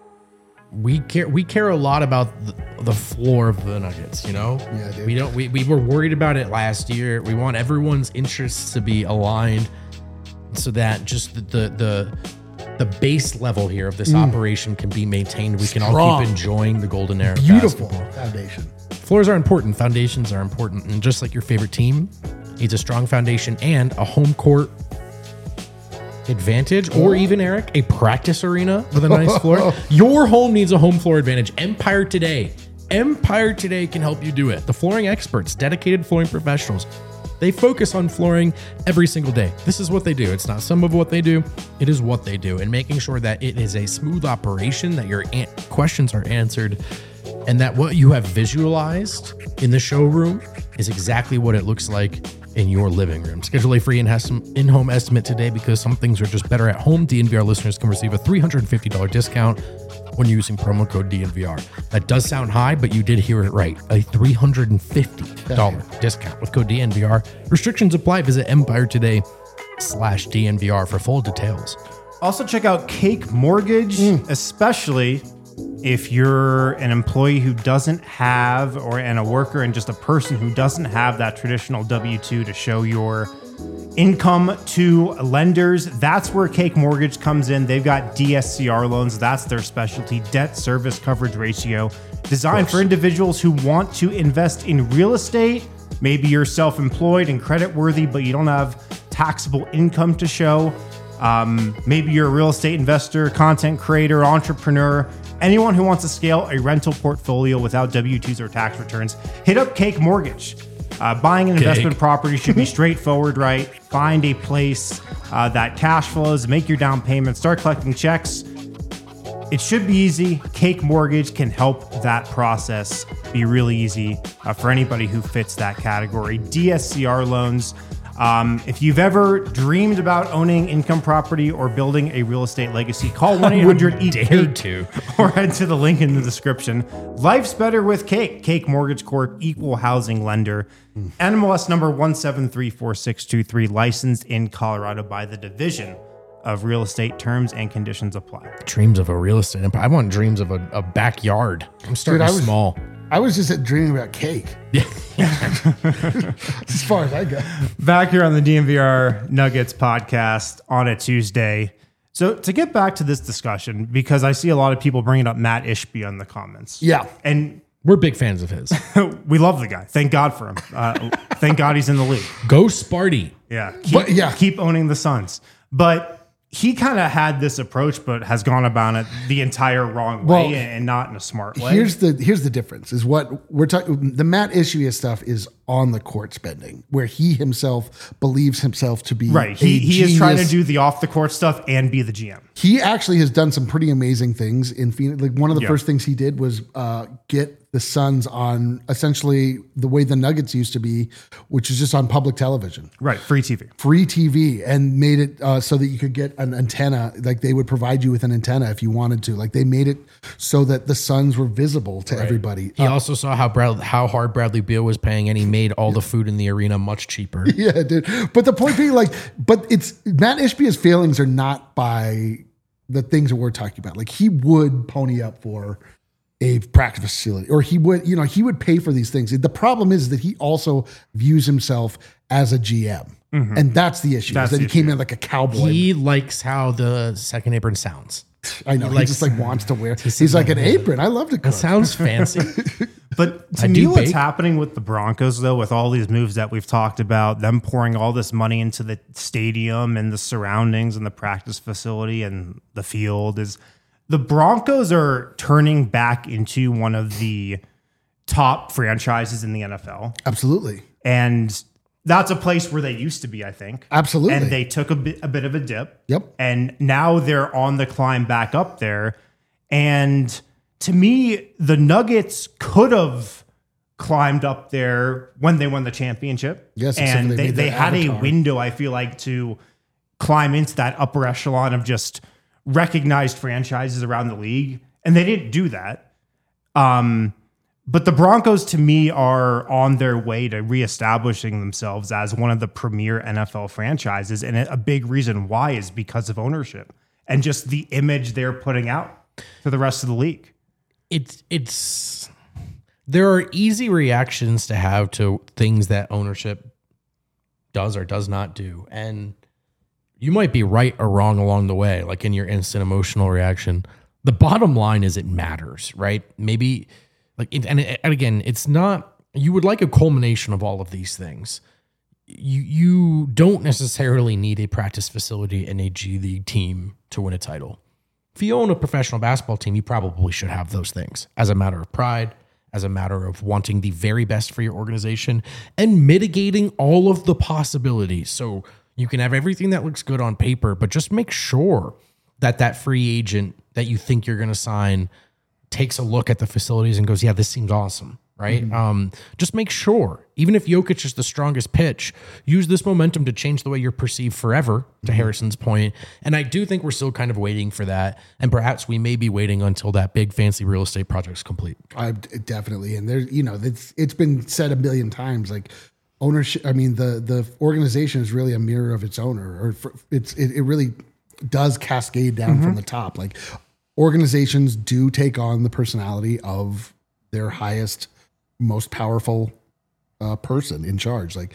we care we care a lot about the, the floor of the Nuggets, you know?
Yeah, dude.
We don't we, we were worried about it last year. We want everyone's interests to be aligned so that just the the the, the base level here of this operation can be maintained. We can all
Strong.
keep enjoying the golden era of
Beautiful
basketball.
foundation.
Floors are important, foundations are important, and just like your favorite team needs a strong foundation and a home court advantage, or even, Eric, a practice arena with a nice floor. Your home needs a home floor advantage. Empire Today. Empire Today can help you do it. The flooring experts, dedicated flooring professionals, they focus on flooring every single day. This is what they do. It's not some of what they do. It is what they do. And making sure that it is a smooth operation, that your an- questions are answered, and that what you have visualized in the showroom is exactly what it looks like in your living room. Schedule a free in-home estimate today because some things are just better at home. D N V R listeners can receive a three hundred fifty dollars discount when using promo code D N V R. That does sound high, but you did hear it right. A three hundred fifty dollars discount with code D N V R. Restrictions apply. Visit Empire Today slash D N V R for full details.
Also, check out Cake Mortgage, especially if you're an employee who doesn't have, or and a worker and just a person who doesn't have that traditional W two to show your income to lenders. That's where Cake Mortgage comes in. They've got D S C R loans. That's their specialty, debt service coverage ratio, designed for individuals who want to invest in real estate. Maybe you're self-employed and credit worthy, but you don't have taxable income to show. Um, maybe you're a real estate investor, content creator, entrepreneur, anyone who wants to scale a rental portfolio without W two's or tax returns. Hit up Cake Mortgage. Uh, buying an
Cake.
investment property should be straightforward, right? Find a place uh, that cash flows, make your down payment, start collecting checks. It should be easy. Cake Mortgage can help that process be really easy uh, for anybody who fits that category. D S C R loans. Um, if you've ever dreamed about owning income property or building a real estate legacy, call one eight hundred E A T
dare to.
or head to the link in the description. Life's better with Cake. Cake Mortgage Corp, equal housing lender. N M L S number one seven three four six two three, licensed in Colorado by the Division of Real Estate. Terms and conditions apply.
Dreams of a real estate empire. I want dreams of a, a backyard. I'm starting
Dude, I was-
small.
I was just dreaming about cake.
Yeah.
As far as I go.
Back here on the D N V R Nuggets podcast on a Tuesday. So to get back to this discussion, because I see a lot of people bringing up Matt Ishbia in the comments.
Yeah.
And
We're big fans of his.
we love the guy. Thank God for him. Uh, thank God he's in the league.
Go Sparty.
Yeah. Keep,
But, yeah.
keep owning the Suns. But he kind of had this approach, but has gone about it the entire wrong way
Well,
and not in a smart way.
Here's the here's the difference is what we're talking. The Matt Ishbia stuff is on the court spending, where he himself believes himself to be
right.
a
He, he is trying to
genius.
do the off the court stuff and be the G M.
He actually has done some pretty amazing things in Phoenix. Like one of the
Yeah.
first things he did was uh, get the Suns on essentially the way the Nuggets used to be, which is just on public television.
Right. Free T V.
Free T V, and made it uh, so that you could get an antenna. Like they would provide you with an antenna if you wanted to. Like they made it so that the Suns were visible to everybody.
He also saw how Brad, how hard Bradley Beal was paying, and he made all the food in the arena much cheaper.
Yeah, dude. But the point being, like, but it's Matt Ishbia's failings are not by the things that we're talking about. Like he would pony up for a practice facility, or he would, you know, he would pay for these things. The problem is that he also views himself as a G M. And that's the issue.
That's
is that
the
he came
issue.
in like a cowboy.
He likes how the second apron sounds.
I know. He,
likes-
just like wants to wear. He's like an apron. I love to cook.
It sounds fancy.
But to
I
me,
do
what's
bake.
happening with the Broncos, though, with all these moves that we've talked about, them pouring all this money into the stadium and the surroundings and the practice facility and the field, is the Broncos are turning back into one of the top franchises in the N F L.
Absolutely.
And that's a place where they used to be, I think.
Absolutely.
And they took a bit, a bit of a dip.
Yep.
And now they're on the climb back up there. And to me, the Nuggets could have climbed up there when they won the championship.
Yes, except
and
for they
they,
made
they
that
had a
avatar.
window, I feel like, to climb into that upper echelon of just recognized franchises around the league. And they didn't do that. Um, but the Broncos, to me, are on their way to reestablishing themselves as one of the premier N F L franchises. And a big reason why is because of ownership and just the image they're putting out to the rest of the league.
it's it's there are easy reactions to have to things that ownership does or does not do, and you might be right or wrong along the way, like in your instant emotional reaction. The bottom line is it matters, right? Maybe like it, and, and again, it's not, you would like a culmination of all of these things. You you don't necessarily need a practice facility and a G League team to win a title. If you own a professional basketball team, you probably should have those things as a matter of pride, as a matter of wanting the very best for your organization and mitigating all of the possibilities. So you can have everything that looks good on paper, but just make sure that that free agent that you think you're going to sign takes a look at the facilities and goes, yeah, this seems awesome. Right. Mm-hmm. Um, just make sure, even if Jokic is the strongest pitch, use this momentum to change the way you're perceived forever, to mm-hmm. Harrison's point. And I do think we're still kind of waiting for that. And perhaps we may be waiting until that big fancy real estate project's complete.
I definitely. And there's, you know, it's, it's been said a million times, like ownership. I mean, the, the organization is really a mirror of its owner, or for, it's, it, it really does cascade down mm-hmm. from the top. Like organizations do take on the personality of their highest, most powerful uh, person in charge. Like,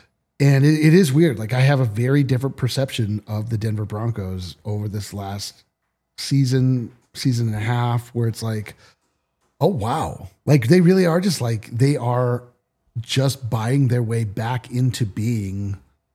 and it, it is weird. Like I have a very different perception of the Denver Broncos over this last season, season and a half, where it's like, oh, wow. Like they really are just like, they are just buying their way back into being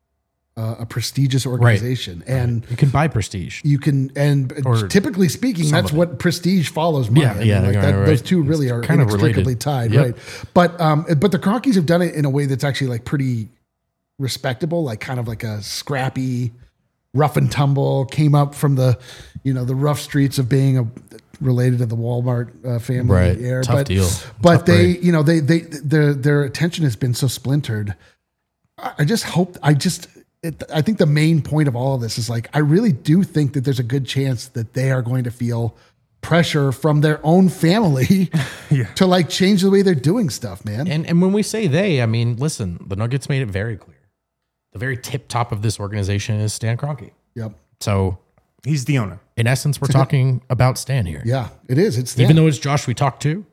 uh, a prestigious organization. Right. And
you can buy prestige.
You can, and or typically speaking, that's what prestige follows money.
Yeah,
I mean,
yeah,
like
right,
that,
right.
Those two really
it's
are
kind
inextricably
of related.
tied,
Yep.
right? But um, but the Cronkies have done it in a way that's actually like pretty respectable, like kind of like a scrappy, rough and tumble, came up from the, you know, the rough streets of being a related to the Walmart uh, family.
Right,
Era.
tough
but,
deal.
But
Tough
they,
break.
you know, they they their their attention has been so splintered. I, I just hope. I just. It, I think the main point of all of this is like, I really do think that there's a good chance that they are going to feel pressure from their own family yeah. to like change the way they're doing stuff, man.
And and when we say they, I mean, listen, the Nuggets made it very clear. The very tip top of this organization is Stan Kroenke.
Yep.
So
he's the owner.
In essence, we're talking about Stan here.
Yeah, it is. It's Stan.
Even though it's Josh we talked to.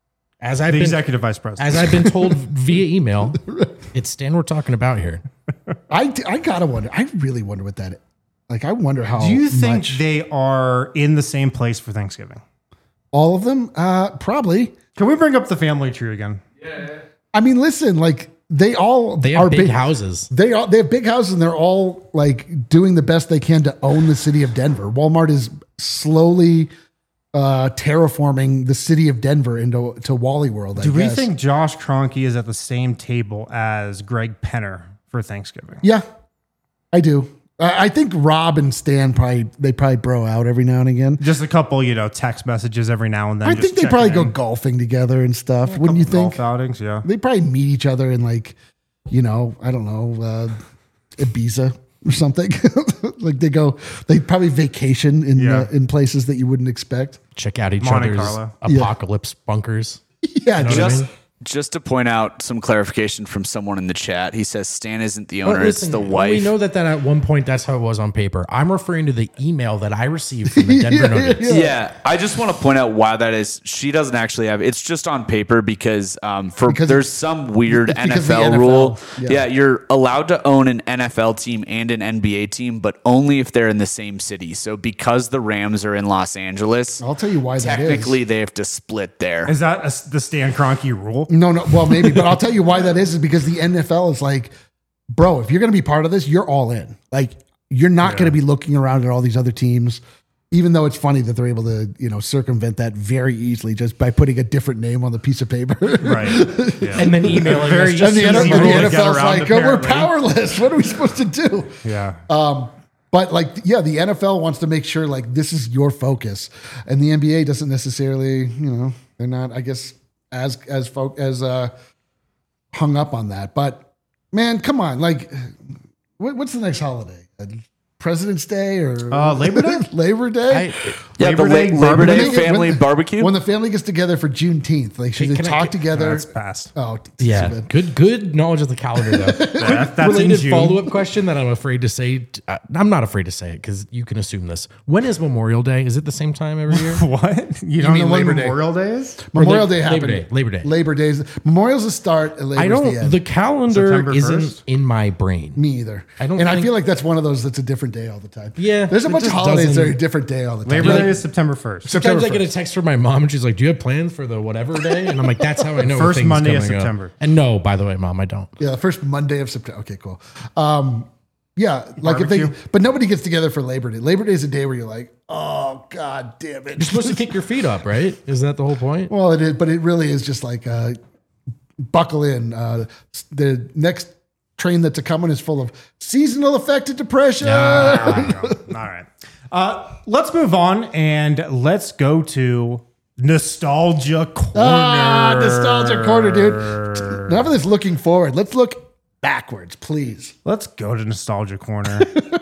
As I've
the
been,
executive vice president.
As I've been told via email, it's Stan we're talking about here.
I, I gotta wonder. I really wonder what that is. Like, I wonder how.
Do you think
much,
they are in the same place for Thanksgiving?
All of them? Uh, probably.
Can we bring up the family tree again?
Yeah. I mean, listen, like they all
they have
are
big,
big
houses.
They all they have big houses, and they're all like doing the best they can to own the city of Denver. Walmart is slowly uh, terraforming the city of Denver into to Wally World. I
Do we
guess.
think Josh Kroenke is at the same table as Greg Penner for Thanksgiving?
Yeah, I do. I I think Rob and Stan probably they probably bro out every now and again.
Just a couple, you know, text messages every now and then.
I
just
think they probably
checking
go
in.
golfing together and stuff.
Yeah, a
Wouldn't you
couple
think?
Golf outings, yeah.
They probably meet each other in like, you know, I don't know, uh, Ibiza or something. Like they go, they probably vacation in
Yeah.
uh, in places that you wouldn't expect.
Check out each
Monte
other's
Carlo.
apocalypse bunkers.
Yeah,
You know what I
Just
mean?
Just to point out some clarification from someone in the chat, he says Stan isn't the owner;
Well, listen,
it's the
We
wife.
know that that at one point that's how it was on paper. I'm referring to the email that I received from the Denver
Yeah,
Nuggets.
yeah.
Yeah, I just want to point out why that is. She doesn't actually have it's just on paper because um, for
Because
there's
it's-
some weird
it's
N
because
F
of the
L
N F L.
rule.
Yeah.
Yeah. you're allowed to own an N F L team and an N B A team, but only if they're in the same city. So because the Rams are in Los Angeles,
I'll tell you why that is.
technically they have to split there.
Is that a, the Stan Kroenke rule?
No, no. Well, maybe, but I'll tell you why that is. Is because the N F L is like, bro, if you're going to be part of this, you're all in. Like, you're not going to be looking around at all these other teams. Even though it's funny that they're able to, you know, circumvent that very easily just by putting a different name on the piece of paper.
Right. Yeah.
And then emailing
Very
us
just
And the,
easy
N- and the
rule to get
N F L's
around,
like, oh, we're
apparently.
powerless. What are we supposed to do?
Yeah.
Um, but like, yeah, the N F L wants to make sure like this is your focus, and the N B A doesn't necessarily, you know, they're not, I guess, as as folk as uh, hung up on that. But man, come on, like, what, what's the next holiday? Uh, President's Day or
Uh, Labor Day?
Labor Day.
I,
yeah,
Labor
the
Day
La- Labor Day
When they-
family
when-
barbecue.
When the family gets together for Juneteenth, like should
Hey,
they
can I
talk
get-
together?
That's past.
Oh,
yeah,
so bad.
good good knowledge of the calendar though.
That- that's in
Related
June.
follow up question that I'm afraid to say. Uh, I'm not afraid to say it because you can assume this. When is Memorial Day? Is it the same time every year?
What? You don't
mean
know when
Labor Day?
Memorial Day is?
Memorial
Or
Day
Labor
happened.
Day, Labor Day.
Labor Days. Memorial's the start. And Labor's
I don't.
The end.
The calendar
September
isn't
first?
in my brain.
Me either.
I don't
And I
think-
feel like that's one of those that's a different day all the time.
Yeah,
There's a
it
bunch of
just
holidays that are a
doesn't-
different day all the time.
Labor
Like,
Day is September first.
Sometimes
September
I get a text from my mom and she's like, "Do you have plans for the whatever day?" And I'm like, "That's how I know."
First
things
Monday of
coming up."
September.
And no, by the way, mom, I don't.
Yeah, the first Monday of September. Okay, cool. Um, yeah, like if they,
Barbecue.
but nobody gets together for Labor Day. Labor Day is a day where you're like, oh god damn it.
You're supposed to kick your feet up, right? Is that the whole point?
Well, it is, but it really is just like uh, buckle in. Uh, the next train that's a coming is full of seasonal affected depression.
All right. Uh, let's move on and let's go to Nostalgia Corner.
Ah, nostalgia corner, dude. Enough of this looking forward. Let's look backwards, please.
Let's go to Nostalgia Corner.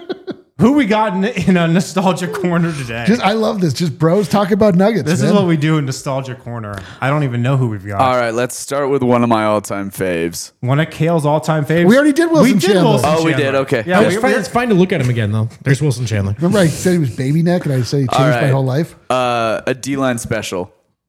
Who we got in, in a Nostalgia Corner today?
Just, I love this. Just bros talking about nuggets.
This
man.
is what we do in Nostalgia Corner. I don't even know who we've got.
All right, let's start with one of my all-time faves.
One of Kale's all-time faves.
We already did Wilson
We did
Chandler.
Wilson
Oh, we
Chandler.
did? Okay.
Yeah,
It's
we,
fine,
we-
it's fine to look at him again, though. There's Wilson Chandler.
Remember I said he was baby neck and I said he changed
All
my
right.
whole life?
Uh, a D-line special.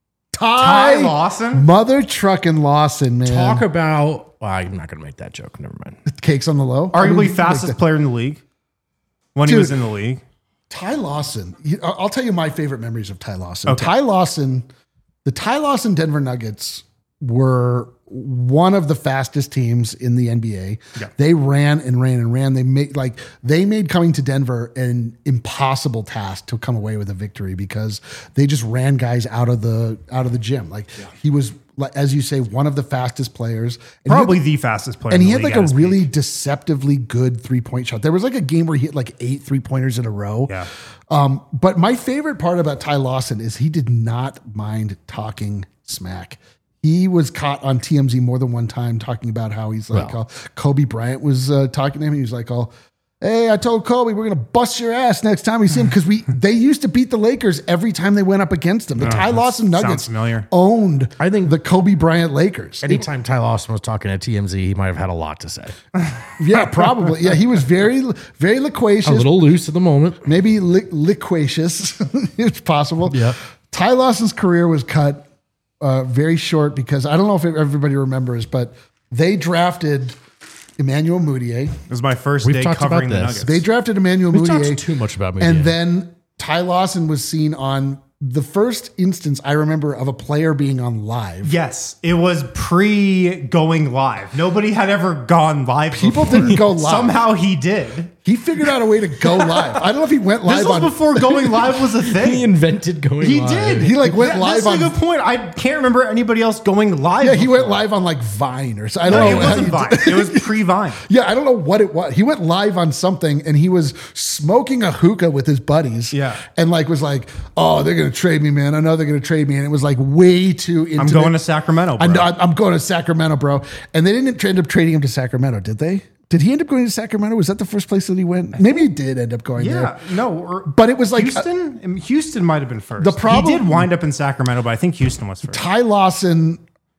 Ty,
Ty Lawson.
Mother trucking Lawson, man.
Talk about. Well, I'm not going to make that joke. Never mind.
Cakes on the low. I
Arguably
mean,
fastest
like the-
player in the league when he
Dude.
was in the league.
Ty Lawson. You- I'll I'll tell you my favorite memories of Ty Lawson.
Okay.
Ty Lawson, the Ty Lawson Denver Nuggets were one of the fastest teams in the N B A.
Yeah.
They ran and ran and ran. They made like they made coming to Denver an impossible task to come away with a victory because they just ran guys out of the out of the gym. Like he was, like, as you say, one of the fastest players. And he had-
Probably the fastest player
and
in
he
the
had
league
like
at his
a really
peak.
deceptively good three point shot. There was like a game where he hit like eight three pointers in a row.
Yeah.
Um, but my favorite part about Ty Lawson is he did not mind talking smack. He was caught on T M Z more than one time talking about how he's like,
Well.
uh, Kobe Bryant was uh, talking to him. He was like, oh, hey, I told Kobe we're going to bust your ass next time we see him. Because we they used to beat the Lakers every time they went up against them. The Ty
that
Lawson
sounds
Nuggets
familiar.
owned
I think-
the Kobe Bryant Lakers.
Anytime Ty Lawson was talking at T M Z, he might have had a lot to say.
Yeah, probably. Yeah, he was very, very loquacious.
A little loose at the moment.
Maybe li- liquacious. It's possible.
Yeah.
Ty Lawson's career was cut uh, very short because I don't know if everybody remembers, but they drafted Emmanuel Mudiay.
It was my first
We've
day
talked
covering
about
the
this.
Nuggets.
They drafted Emmanuel
We've
Mudiay.
talked too much about Mudiay.
And then Ty Lawson was seen on the first instance I remember of a player being on live.
Yes, it was pre going live. Nobody had ever gone live.
People
before.
didn't go live.
Somehow he did.
He figured out a way to go live. I don't know if he went live
This was
on.
before going live was a
he
thing.
invented going
He
live.
did.
He, like, went
That-
live
That's
on-
a good point. I can't remember anybody else going live.
Yeah, he went
before.
live on like Vine or something. I
No,
don't
it
know. how
wasn't
you
Vine.
did-
It was pre-Vine.
Yeah, I don't know what it was. He went live on something and he was smoking a hookah with his buddies.
Yeah.
And like was like, oh, they're gonna trade me, man. I know they're gonna trade me. And it was like way too into
I'm going to Sacramento, bro.
I know, I'm going to Sacramento, bro. And they didn't end up trading him to Sacramento, did they? Did he end up going to Sacramento? Was that the first place that he went? Maybe he did end up going
Yeah,
there.
no, or,
But it was like-
Houston. Um, Houston might have been first.
The problem-
he did wind up in Sacramento, but I think Houston was first.
Ty Lawson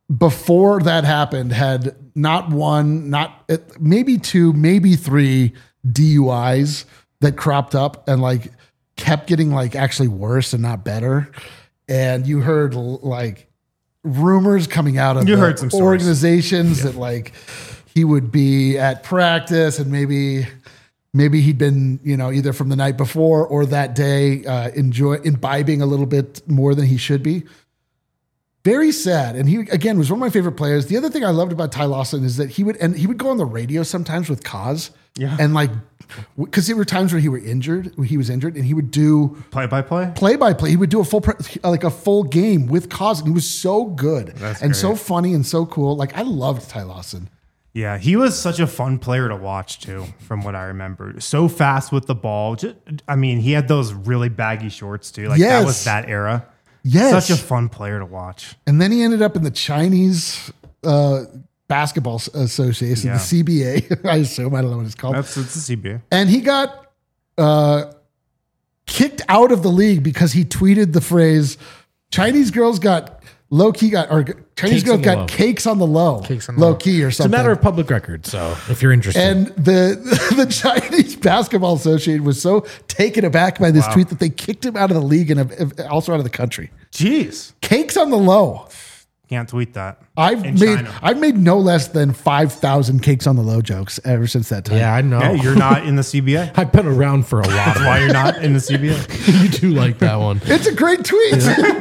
before that happened, had not one, not maybe two, maybe three D U Is that cropped up and like kept getting like actually worse and not better. And you heard like rumors coming out of
You
the
heard some stories.
organizations that like he would be at practice and maybe maybe he'd been, you know, either from the night before or that day uh, enjoy imbibing a little bit more than he should be. Very sad. And he, again, was one of my favorite players. The other thing I loved about Ty Lawson is that he would, and he would go on the radio sometimes with Kaz.
Yeah.
And like, because there were times where he were injured, where he was injured, and he would do
Play by play.
play by play. He would do a full, pre- like a full game with Kaz. And he was so good
That's
and
great.
so funny and so cool. Like I loved Ty Lawson.
Yeah, he was such a fun player to watch too, from what I remember. So fast with the ball. Just, I mean, he had those really baggy shorts too. Like
Yes.
that was that era.
Yes.
Such a fun player to watch.
And then he ended up in the Chinese uh, Basketball Association,
Yeah.
the C B A, I assume. I don't know what it's called.
That's it's a C B A.
And he got uh, kicked out of the league because he tweeted the phrase, Chinese girls got low key, got, or Chinese
Cakes
girls
on the
got
low.
cakes on the low,
Cakes on the
low
low.
key or
It's a
something.
matter of public record. So if you're interested,
And the the Chinese Basketball Association was so taken aback by this
Wow.
tweet that they kicked him out of the league and uh, also out of the country.
Jeez.
Cakes on the low.
Can't tweet that.
I've
In
made
China.
I've made no less than five thousand cakes on the low jokes ever since that time.
yeah, I know.
Yeah, you're not in the C B A.
I've been around for a while.
That's why you're not in the C B A.
You do like that one.
It's a great tweet.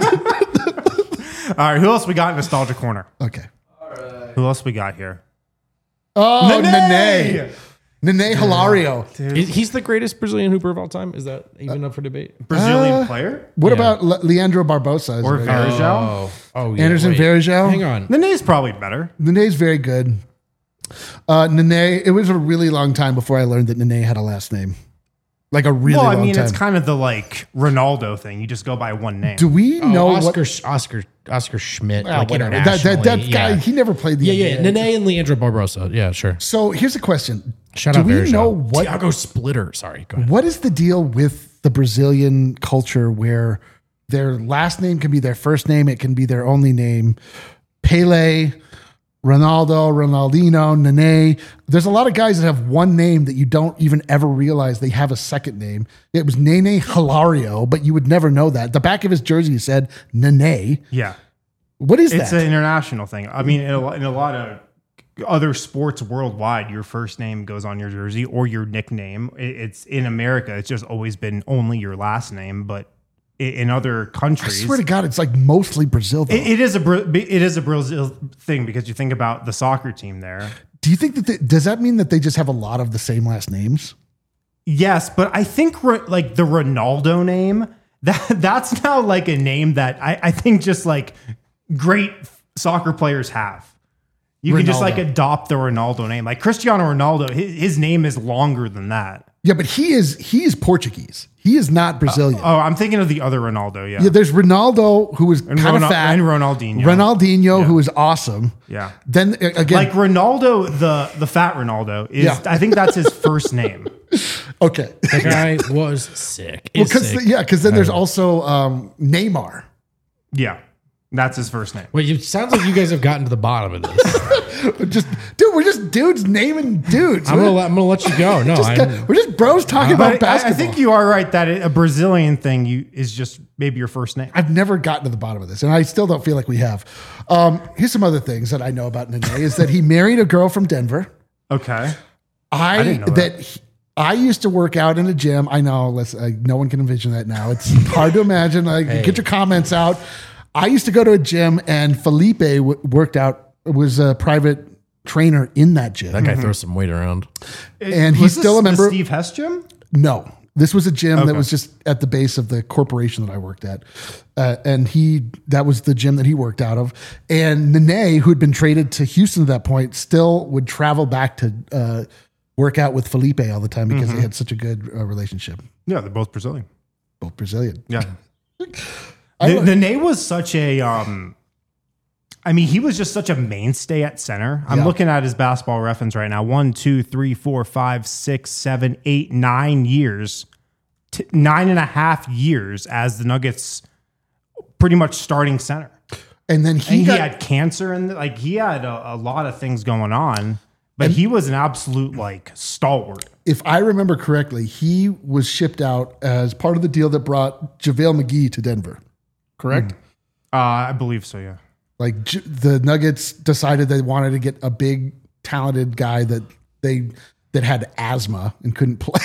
All right, who else we got in Nostalgia Corner?
Okay.
Who else we got here?
Oh,
Nene!
Nene. Nene Hilario.
Is- He's the greatest Brazilian hooper of all time. Is that even up for debate?
Brazilian
Uh,
player?
What
Yeah.
about Le- Leandro Barbosa?
Or
Is it-
Varejao?
Oh, oh, yeah.
Anderson
wait.
Varejao?
Hang on.
Nene's probably better.
Nene's very good. Uh, Nene, it was a really long time before I learned that Nene had a last name. Like a really
Well, I
long
mean,
time.
it's kind of the like Ronaldo thing. You just go by one name.
Do we
Oh,
know
Oscar,
what?
Sh- Oscar, Oscar Schmidt.
Ah,
like
whatever. That,
internationally.
that, that guy,
yeah.
he never played the
yeah,
N B A.
yeah. Nene and Leandro Barbosa. Yeah, sure.
So here's a question.
Shout
Do
out
we
Varejao.
know what
Thiago Splitter. Sorry, go ahead.
What is the deal with the Brazilian culture where their last name can be their first name, it can be their only name? Pele, Ronaldo, Ronaldinho, Nene. There's a lot of guys that have one name that you don't even ever realize they have a second name. It was Nene Hilario, but you would never know that. The back of his jersey said Nene.
Yeah.
What is
It's
that?
an international thing. I mean, in a, lo- in a lot of other sports worldwide, your first name goes on your jersey or your nickname. It- It's in America. It's just always been only your last name, but i- in other
I
countries,
swear to God, it's like mostly Brazil. Though.
it, it is a Bra- it is a Brazil thing because you think about the soccer team there.
Do you think that they, does that mean that they just have a lot of the same last names?
Yes, but I think Ro- like the Ronaldo name that that's now like a name that I, I think just like great soccer players have. You can just like
Ronaldo.
adopt the Ronaldo name. Like Cristiano Ronaldo, his, his name is longer than that.
Yeah, but he is he is Portuguese. He is not Brazilian.
Oh, I'm thinking of the other Ronaldo. Yeah,
Yeah, there's Ronaldo who was
and,
kind
Ronal-
of fat,
and Ronaldinho.
Ronaldinho who was awesome.
Yeah,
Then uh, again,
like Ronaldo, the the fat Ronaldo is.
Yeah.
I think that's his first name.
okay,
The guy was sick.
well,
Is
because
sick.
yeah, because then there's also um, Neymar.
Yeah, that's his first name.
Wait, it sounds like you guys have gotten to the bottom of this.
Just dude, we're just dudes naming dudes.
I'm
We're,
gonna let, I'm gonna let you go. No,
just,
I'm,
we're just bros talking about
But I, I
basketball.
think you are right that a Brazilian thing you is just maybe your first name.
I've never gotten to the bottom of this, and I still don't feel like we have. Um, here's some other things that I know about Nene is that he married a girl from Denver.
Okay.
I,
didn't know
that.
that.
he- I used to work out in a gym. I know, let's, uh, no one can envision that now. It's hard to imagine. Like, get your comments out. I used to go to a gym, and Felipe w- worked out. Was a private trainer in that gym.
that guy throws some weight around.
And he's
Was this
still a
the
member-
Steve Hess gym?
No, this was a gym that
Okay.
was just at the base of the corporation that I worked at, uh, and he that was the gym that he worked out of. And Nene, who had been traded to Houston at that point, still would travel back to uh, work out with Felipe all the time because they had such a good uh, relationship.
Yeah, they're both Brazilian.
Both Brazilian.
Yeah.
I
the,
like-
the Nene was such a um I mean, he was just such a mainstay at center. I'm
Yeah.
looking at his basketball reference right now. One, two, three, four, five, six, seven, eight, nine years. T- nine and a half years as the Nuggets pretty much starting center.
And then he,
and
got,
he had cancer and like he had a, a lot of things going on, but he was an absolute like stalwart.
if I remember correctly, he was shipped out as part of the deal that brought JaVale McGee to Denver. Correct?
Mm. Uh, I believe so, yeah.
Like J- the Nuggets decided they wanted to get a big, talented guy that they that had asthma and couldn't play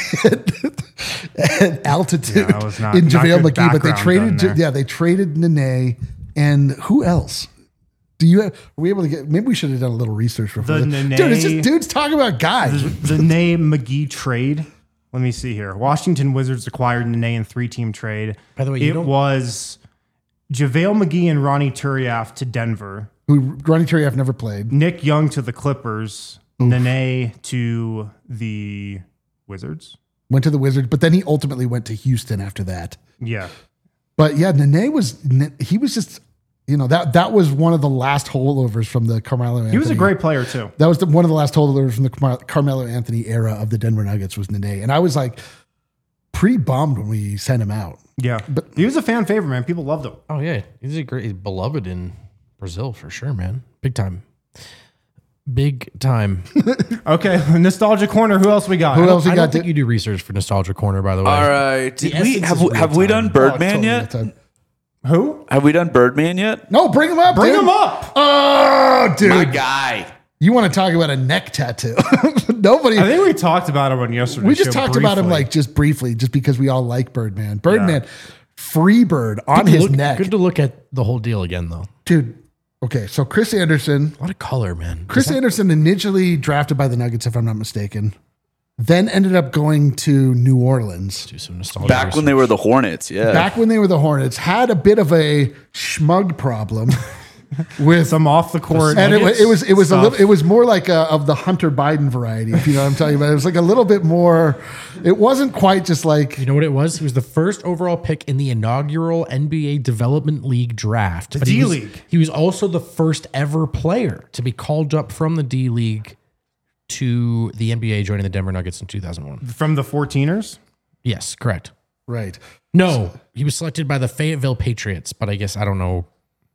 at, at altitude
Yeah, that was not-
in
not
JaVale
good
McGee. But they
background
traded,
done there.
yeah, they traded Nene and who else? Do you have, are we able to get? Maybe we should have done a little research before.
The
this.
Nene-
Dude, it's just dudes talking about guys.
The, the Nene McGee trade. Let me see here. Washington Wizards acquired Nene in three-team trade.
By the way, you
it
don't-
was JaVale McGee and Ronnie Turiaf to Denver.
Who Ronnie Turiaf never played.
Nick Young to the Clippers. Nene to the Wizards.
Went to the Wizards, but then he ultimately went to Houston after that.
Yeah.
But yeah, Nene was he was just you know that that was one of the last holdovers from the Carmelo Anthony.
He was a great player too.
That was the, one of the last holdovers from the Car- Carmelo Anthony era of the Denver Nuggets was Nene, and I was like pretty bummed when we sent him out.
Yeah.
But-
he was a fan favorite, man. People loved him.
Oh yeah, he's a great, he's beloved in Brazil for sure, man. Big time, big time.
Okay. Nostalgia corner. Who else we got?
Who else we
I
got?
don't think
to-
you do research for Nostalgia Corner, by the way.
All right. Did
The
we
essence
have
is
we, have we
real-time.
done Birdman
Oh, totally
yet?
that time.
Who?
Have we done Birdman yet?
No, bring him up.
Bring
dude.
him up.
Oh, dude,
My guy.
you want to talk about a neck tattoo? Nobody.
I think we talked about him on yesterday's
We just
show
talked about him
briefly.
like just briefly, just because we all like Birdman. Birdman, free bird on his
Look-
neck,
Good to look at the whole deal again, though.
dude. Okay, so Chris Anderson,
A lot of color, man.
Chris Anderson initially drafted by the Nuggets, if I'm not mistaken, then ended up going to New Orleans.
Do some nostalgia.
Back when they were the Hornets, yeah.
Back when they were the Hornets, had a bit of a schmug problem with
some off the court.
and it, wa- it was it was a
stuff.
little it was more like a, of the Hunter Biden variety, if you know what I'm talking about. It was like a little bit more. It wasn't quite just like
You know what it was? He was the first overall pick in the inaugural N B A Development League draft.
The
But he was-
D-League.
He was also the first ever player to be called up from the D League to the N B A, joining the Denver Nuggets in two thousand one.
from the fourteeners.
Yes, correct.
right.
No, he was selected by the Fayetteville Patriots, but I guess I don't know.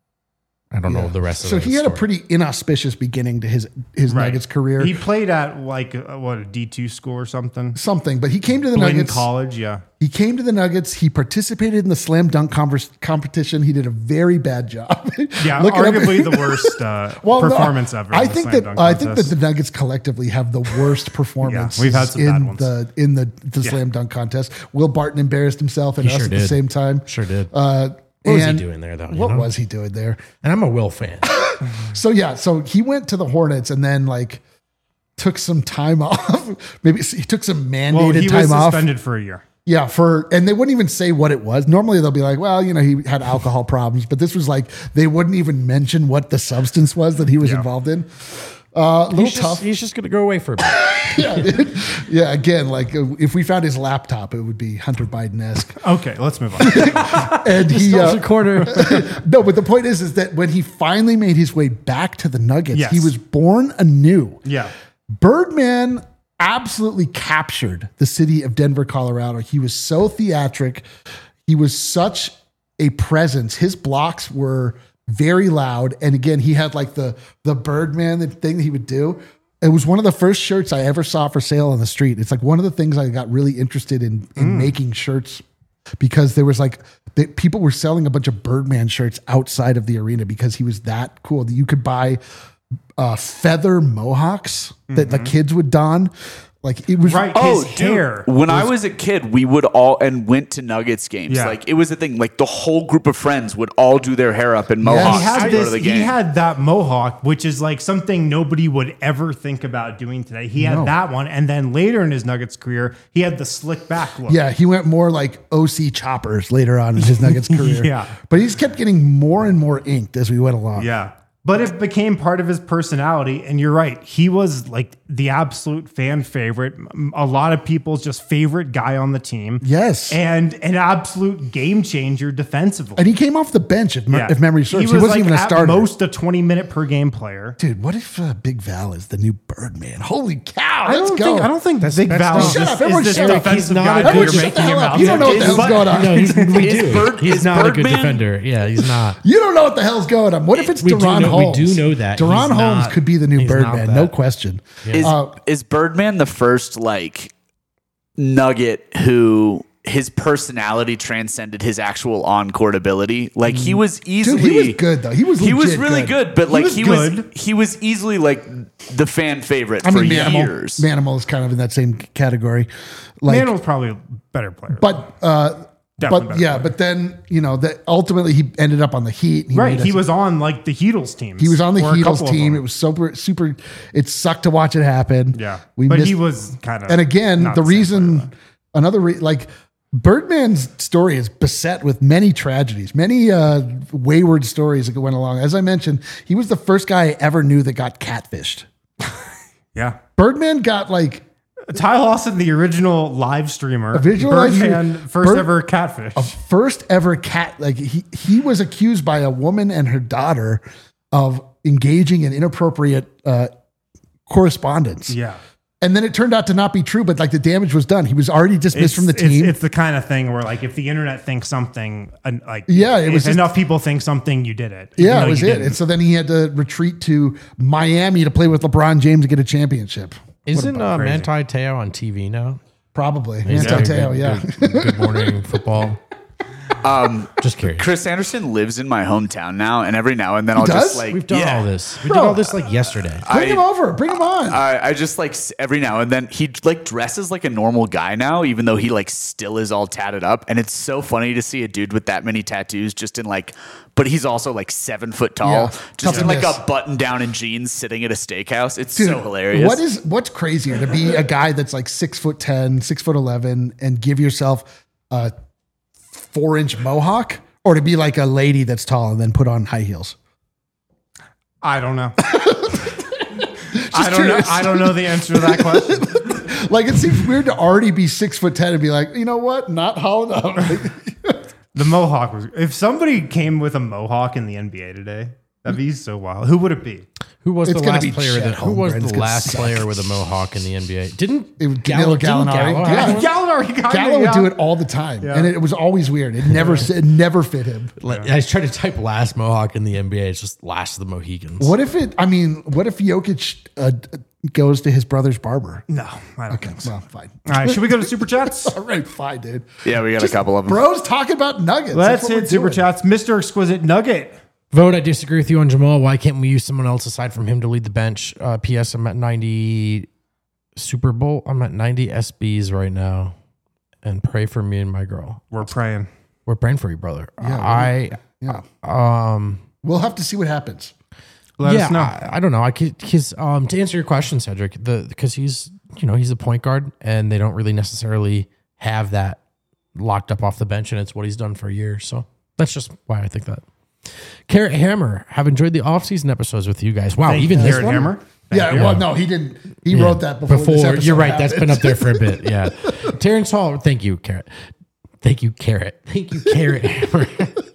I don't know the rest of
So
the
he had a
story.
pretty inauspicious beginning to his his Nuggets career.
He played at like uh, what a D two school or something.
Something, but he came to the
Blinn
Nuggets.
College, yeah.
He came to the Nuggets. He participated in the slam dunk converse, competition. He did a very bad job.
Yeah,
Look it up.
arguably the worst uh,
Well, no,
performance ever. in
I
the
think
slam
that
dunk
I think that
contest.
the Nuggets collectively have the worst performance.
we've had some
in
bad ones.
the in the, the slam dunk contest. Will Barton embarrassed himself and
He
us
sure
at the
did.
same time.
Sure did.
Uh,
What was he
and
doing there, though? you
What
know?
was he doing there?
And I'm a Will fan.
So yeah, so he went to the Hornets and then like took some time off. Maybe he took some mandated
well, he
time
was
off.
suspended for a year.
Yeah, for and they wouldn't even say what it was. Normally they'll be like, well, you know, he had alcohol problems, but this was like they wouldn't even mention what the substance was that he was
Yeah.
involved in. Uh, a little
He's
tough.
just, he's just going to go away for a bit.
yeah, dude. yeah. Again, like uh, if we found his laptop, it would be Hunter Biden esque.
Okay, let's move on.
And he, uh,
corner.
no, but the point is, is that when he finally made his way back to the Nuggets,
Yes.
he was born anew.
yeah.
Birdman absolutely captured the city of Denver, Colorado. He was so theatric. He was such a presence. His blocks were very loud. And again, he had like the the Birdman thing that he would do. It was one of the first shirts I ever saw for sale on the street. It's like one of the things I got really interested in in making shirts because there was like they, people were selling a bunch of Birdman shirts outside of the arena because he was that cool. You could buy uh, feather mohawks that the kids would don. Like it was
Right.
Oh,
his
dude,
hair.
when I was a kid, we would all and went to Nuggets games.
Yeah.
Like it was a thing. Like the whole group of friends would all do their hair up in mohawks
He had
to go
this.
to the
He
game.
had that mohawk, which is like something nobody would ever think about doing today. He had
No.
that one, and then later in his Nuggets career, he had the slick back look.
Yeah, he went more like O C Choppers later on in his Nuggets career.
Yeah.
But he's kept getting more and more inked as we went along.
Yeah. But it became part of his personality. And you're right. He was like the absolute fan favorite, a lot of people's just favorite guy on the team.
Yes.
And an absolute game changer defensively.
And he came off the bench, if, me-
Yeah.
if memory serves.
He
He,
was
wasn't
like
even a
at
starter.
most a twenty minute per game player.
Dude, what if uh, Big Val is the new Birdman? Holy cow!
I
Let's
don't
go.
think I don't think Big
that's
Val
not-
is
Shut
this,
up, everyone
is this
shut up.
defensive
He's not
guy
a
that
good-
you're
Shut the
making
hell
him
up.
out.
You don't know what the
Is-
hell's
but-
going on.
No, he's, we
Is
do.
Bird-
he's
is
not a good
Birdman-
defender. Yeah, he's not.
You don't know what the hell's going on. What if it's
We do
Deron
know- we
Holmes?
do know that.
Deron
He's
Holmes
not-
could be the new
he's not
Birdman,
that.
no question.
Is
Uh,
is Birdman the first like Nugget who his personality transcended his actual on court ability? Like he was easily
Dude, he was good though. He was
he was
legit
really good, but like
was
he was,
good.
he was easily like the fan favorite
I
for
mean, Manimal,
years.
Manimal is kind of in that same category. Like,
Mandel's probably a better player.
but uh,
Definitely
but
better
yeah,
player.
but then you know that ultimately he ended up on the Heat. He
right.
made
He
us-
was on like the Heatles teams.
He was on the
or a
Heatles
couple of
team.
them.
It was super, super. It sucked to watch it happen.
Yeah.
we
but
missed,
he was kind of.
And again,
not
the
the same
reason,
player,
another re, like Birdman's story is beset with many tragedies, many uh, wayward stories that went along. As I mentioned, he was the first guy I ever knew that got catfished.
yeah.
Birdman got like
Ty Lawson, the original live streamer.
Original live
Birdman,
stream-
first
Bird-
ever catfish.
first ever cat. Like he he was accused by a woman and her daughter of engaging in inappropriate uh, correspondence.
yeah.
And then it turned out to not be true, but like the damage was done. He was already dismissed from the
it's,
team.
It's the kind of thing where, like, if the internet thinks something, and like,
Yeah, it was
if
just-
enough people think something, you did it. even
yeah,
though
it was
you
it.
didn't.
And so then he had to retreat to Miami to play with LeBron James to get a championship.
Isn't uh,
crazy.
Manti Te'o on T V now?
Probably.
He's
Manti
doing
Te'o,
good-
yeah.
Good, good morning football.
Um,
Just curious.
Chris Anderson lives in my hometown now, and every now and then I'll
does?
just like
We've done
yeah.
all this. We
Bro,
did all this like yesterday.
Bring
I-
him over. Bring him on.
I, I just like s- every now and then he like dresses like a normal guy now, even though he like still is all tatted up. And it's so funny to see a dude with that many tattoos just in like, but he's also like seven foot tall,
Yeah,
just
tough
in
to
like
miss.
a button down and jeans sitting at a steakhouse. It's
Dude,
so hilarious.
What is what's crazier to be a guy that's like six foot ten, six foot eleven, and give yourself a four inch mohawk, or to be like a lady that's tall and then put on high heels?
I don't know. I don't
curious.
know. I don't know the answer to that question.
Like it seems weird to already be six foot ten and be like, you know what, not hollowed out.
The mohawk was. If somebody came with a mohawk in the N B A today, that'd be so wild. Who would it be?
Who was
It's
the
gonna
last
be
player
Chet
that? Who was
Holmgren. It's
the
gonna
last
suck.
player with a mohawk in the N B A? Didn't
It was
Gallo,
Danilo
didn't
Gallinari.
Gallo
Yeah.
have one?
Gallinari. kinda,
Gallo would
yeah.
do it all the time,
Yeah.
and it was always weird. It never it never fit him.
Like, I tried to type last mohawk in the N B A. It's just last of the Mohicans.
What if it? I mean, what if Jokic uh, goes to his brother's barber?
No, I don't think so.
Well, fine.
All right, should we go to super chats?
All right, fine, dude.
Yeah, we got a couple of them.
Bros talking about nuggets.
Let's
That's what
hit
we're
super
doing.
chats. Mister Exquisite Nugget.
Vote, I disagree with you on Jamal. Why can't we use someone else aside from him to lead the bench? Uh, P S. I'm at ninety Super Bowl. I'm at ninety S Bs right now. And pray for me and my girl.
We're praying.
We're praying for you, brother.
Yeah,
I,
Yeah,
um,
we'll have to see what happens.
Let
yeah,
us know.
I, I don't know. I could, his, um, to answer your question, Cedric, the, because he's, you know, he's a point guard and they don't really necessarily have that locked up off the bench. And it's what he's done for a year. So that's just why I think that. Carrot Hammer, have enjoyed the off-season episodes with you guys. Wow,
Thank
even
you,
this
Jared
one?
Hammer.
Yeah, well, no, he didn't. He wrote that before. this episode
you're right. That's been
happened.
up there for a bit. Yeah. Terrence Hall. Thank you, Carrot. Thank you, Carrot. Thank you, Carrot Hammer.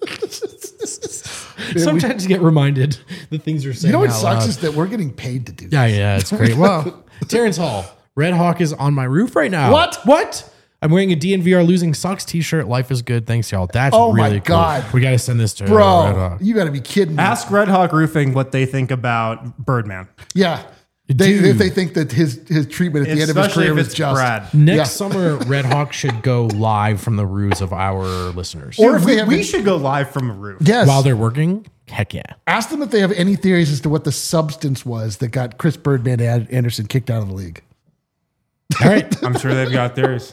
Sometimes you get reminded the things you're saying.
You know what
out
sucks
loud.
is that we're getting paid to do.
Yeah, yeah, it's great. Well, Terrence Hall, Red Hawk is on my roof right now.
What?
What? I'm wearing a D N V R losing sucks t-shirt. Life is good. Thanks, y'all. That's
Oh my
really cool.
God.
We got to send this to Red
Bro,
Hawk.
you got to be kidding me.
Ask Red Hawk Roofing what they think about Birdman.
Yeah. They,
Dude.
if they think that his his treatment at the end of his
Especially
career
if
was
it's
just.
Brad.
Next
Yeah.
summer, Red Hawk should go live from the roofs of our listeners.
Or if
we,
they have
we
any-
should go live from a roof.
Yes.
While they're working, heck yeah.
Ask them if they have any theories as to what the substance was that got Chris Birdman and Anderson kicked out of the league.
All right.
I'm sure they've got theirs.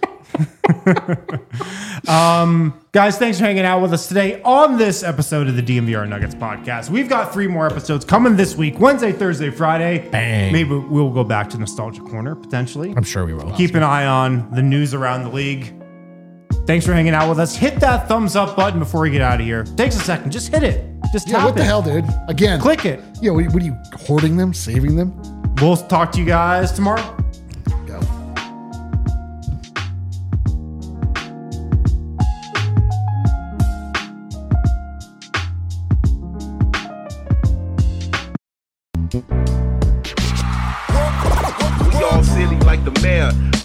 um, guys, thanks for hanging out with us today on this episode of the D M V R Nuggets podcast. We've got three more episodes coming this week: Wednesday, Thursday, Friday.
Bang.
Maybe we'll go back to Nostalgia Corner potentially.
I'm sure we will.
Keep an eye on the news around the league. Thanks for hanging out with us. Hit that thumbs up button before we get out of here. Takes a second. Just hit it. Just
Yeah,
tap
what the
it.
hell, dude? Again.
Click it.
Yeah, what, what are you hoarding them, saving them?
We'll talk to you guys tomorrow.
Go.
We all silly like the mayor.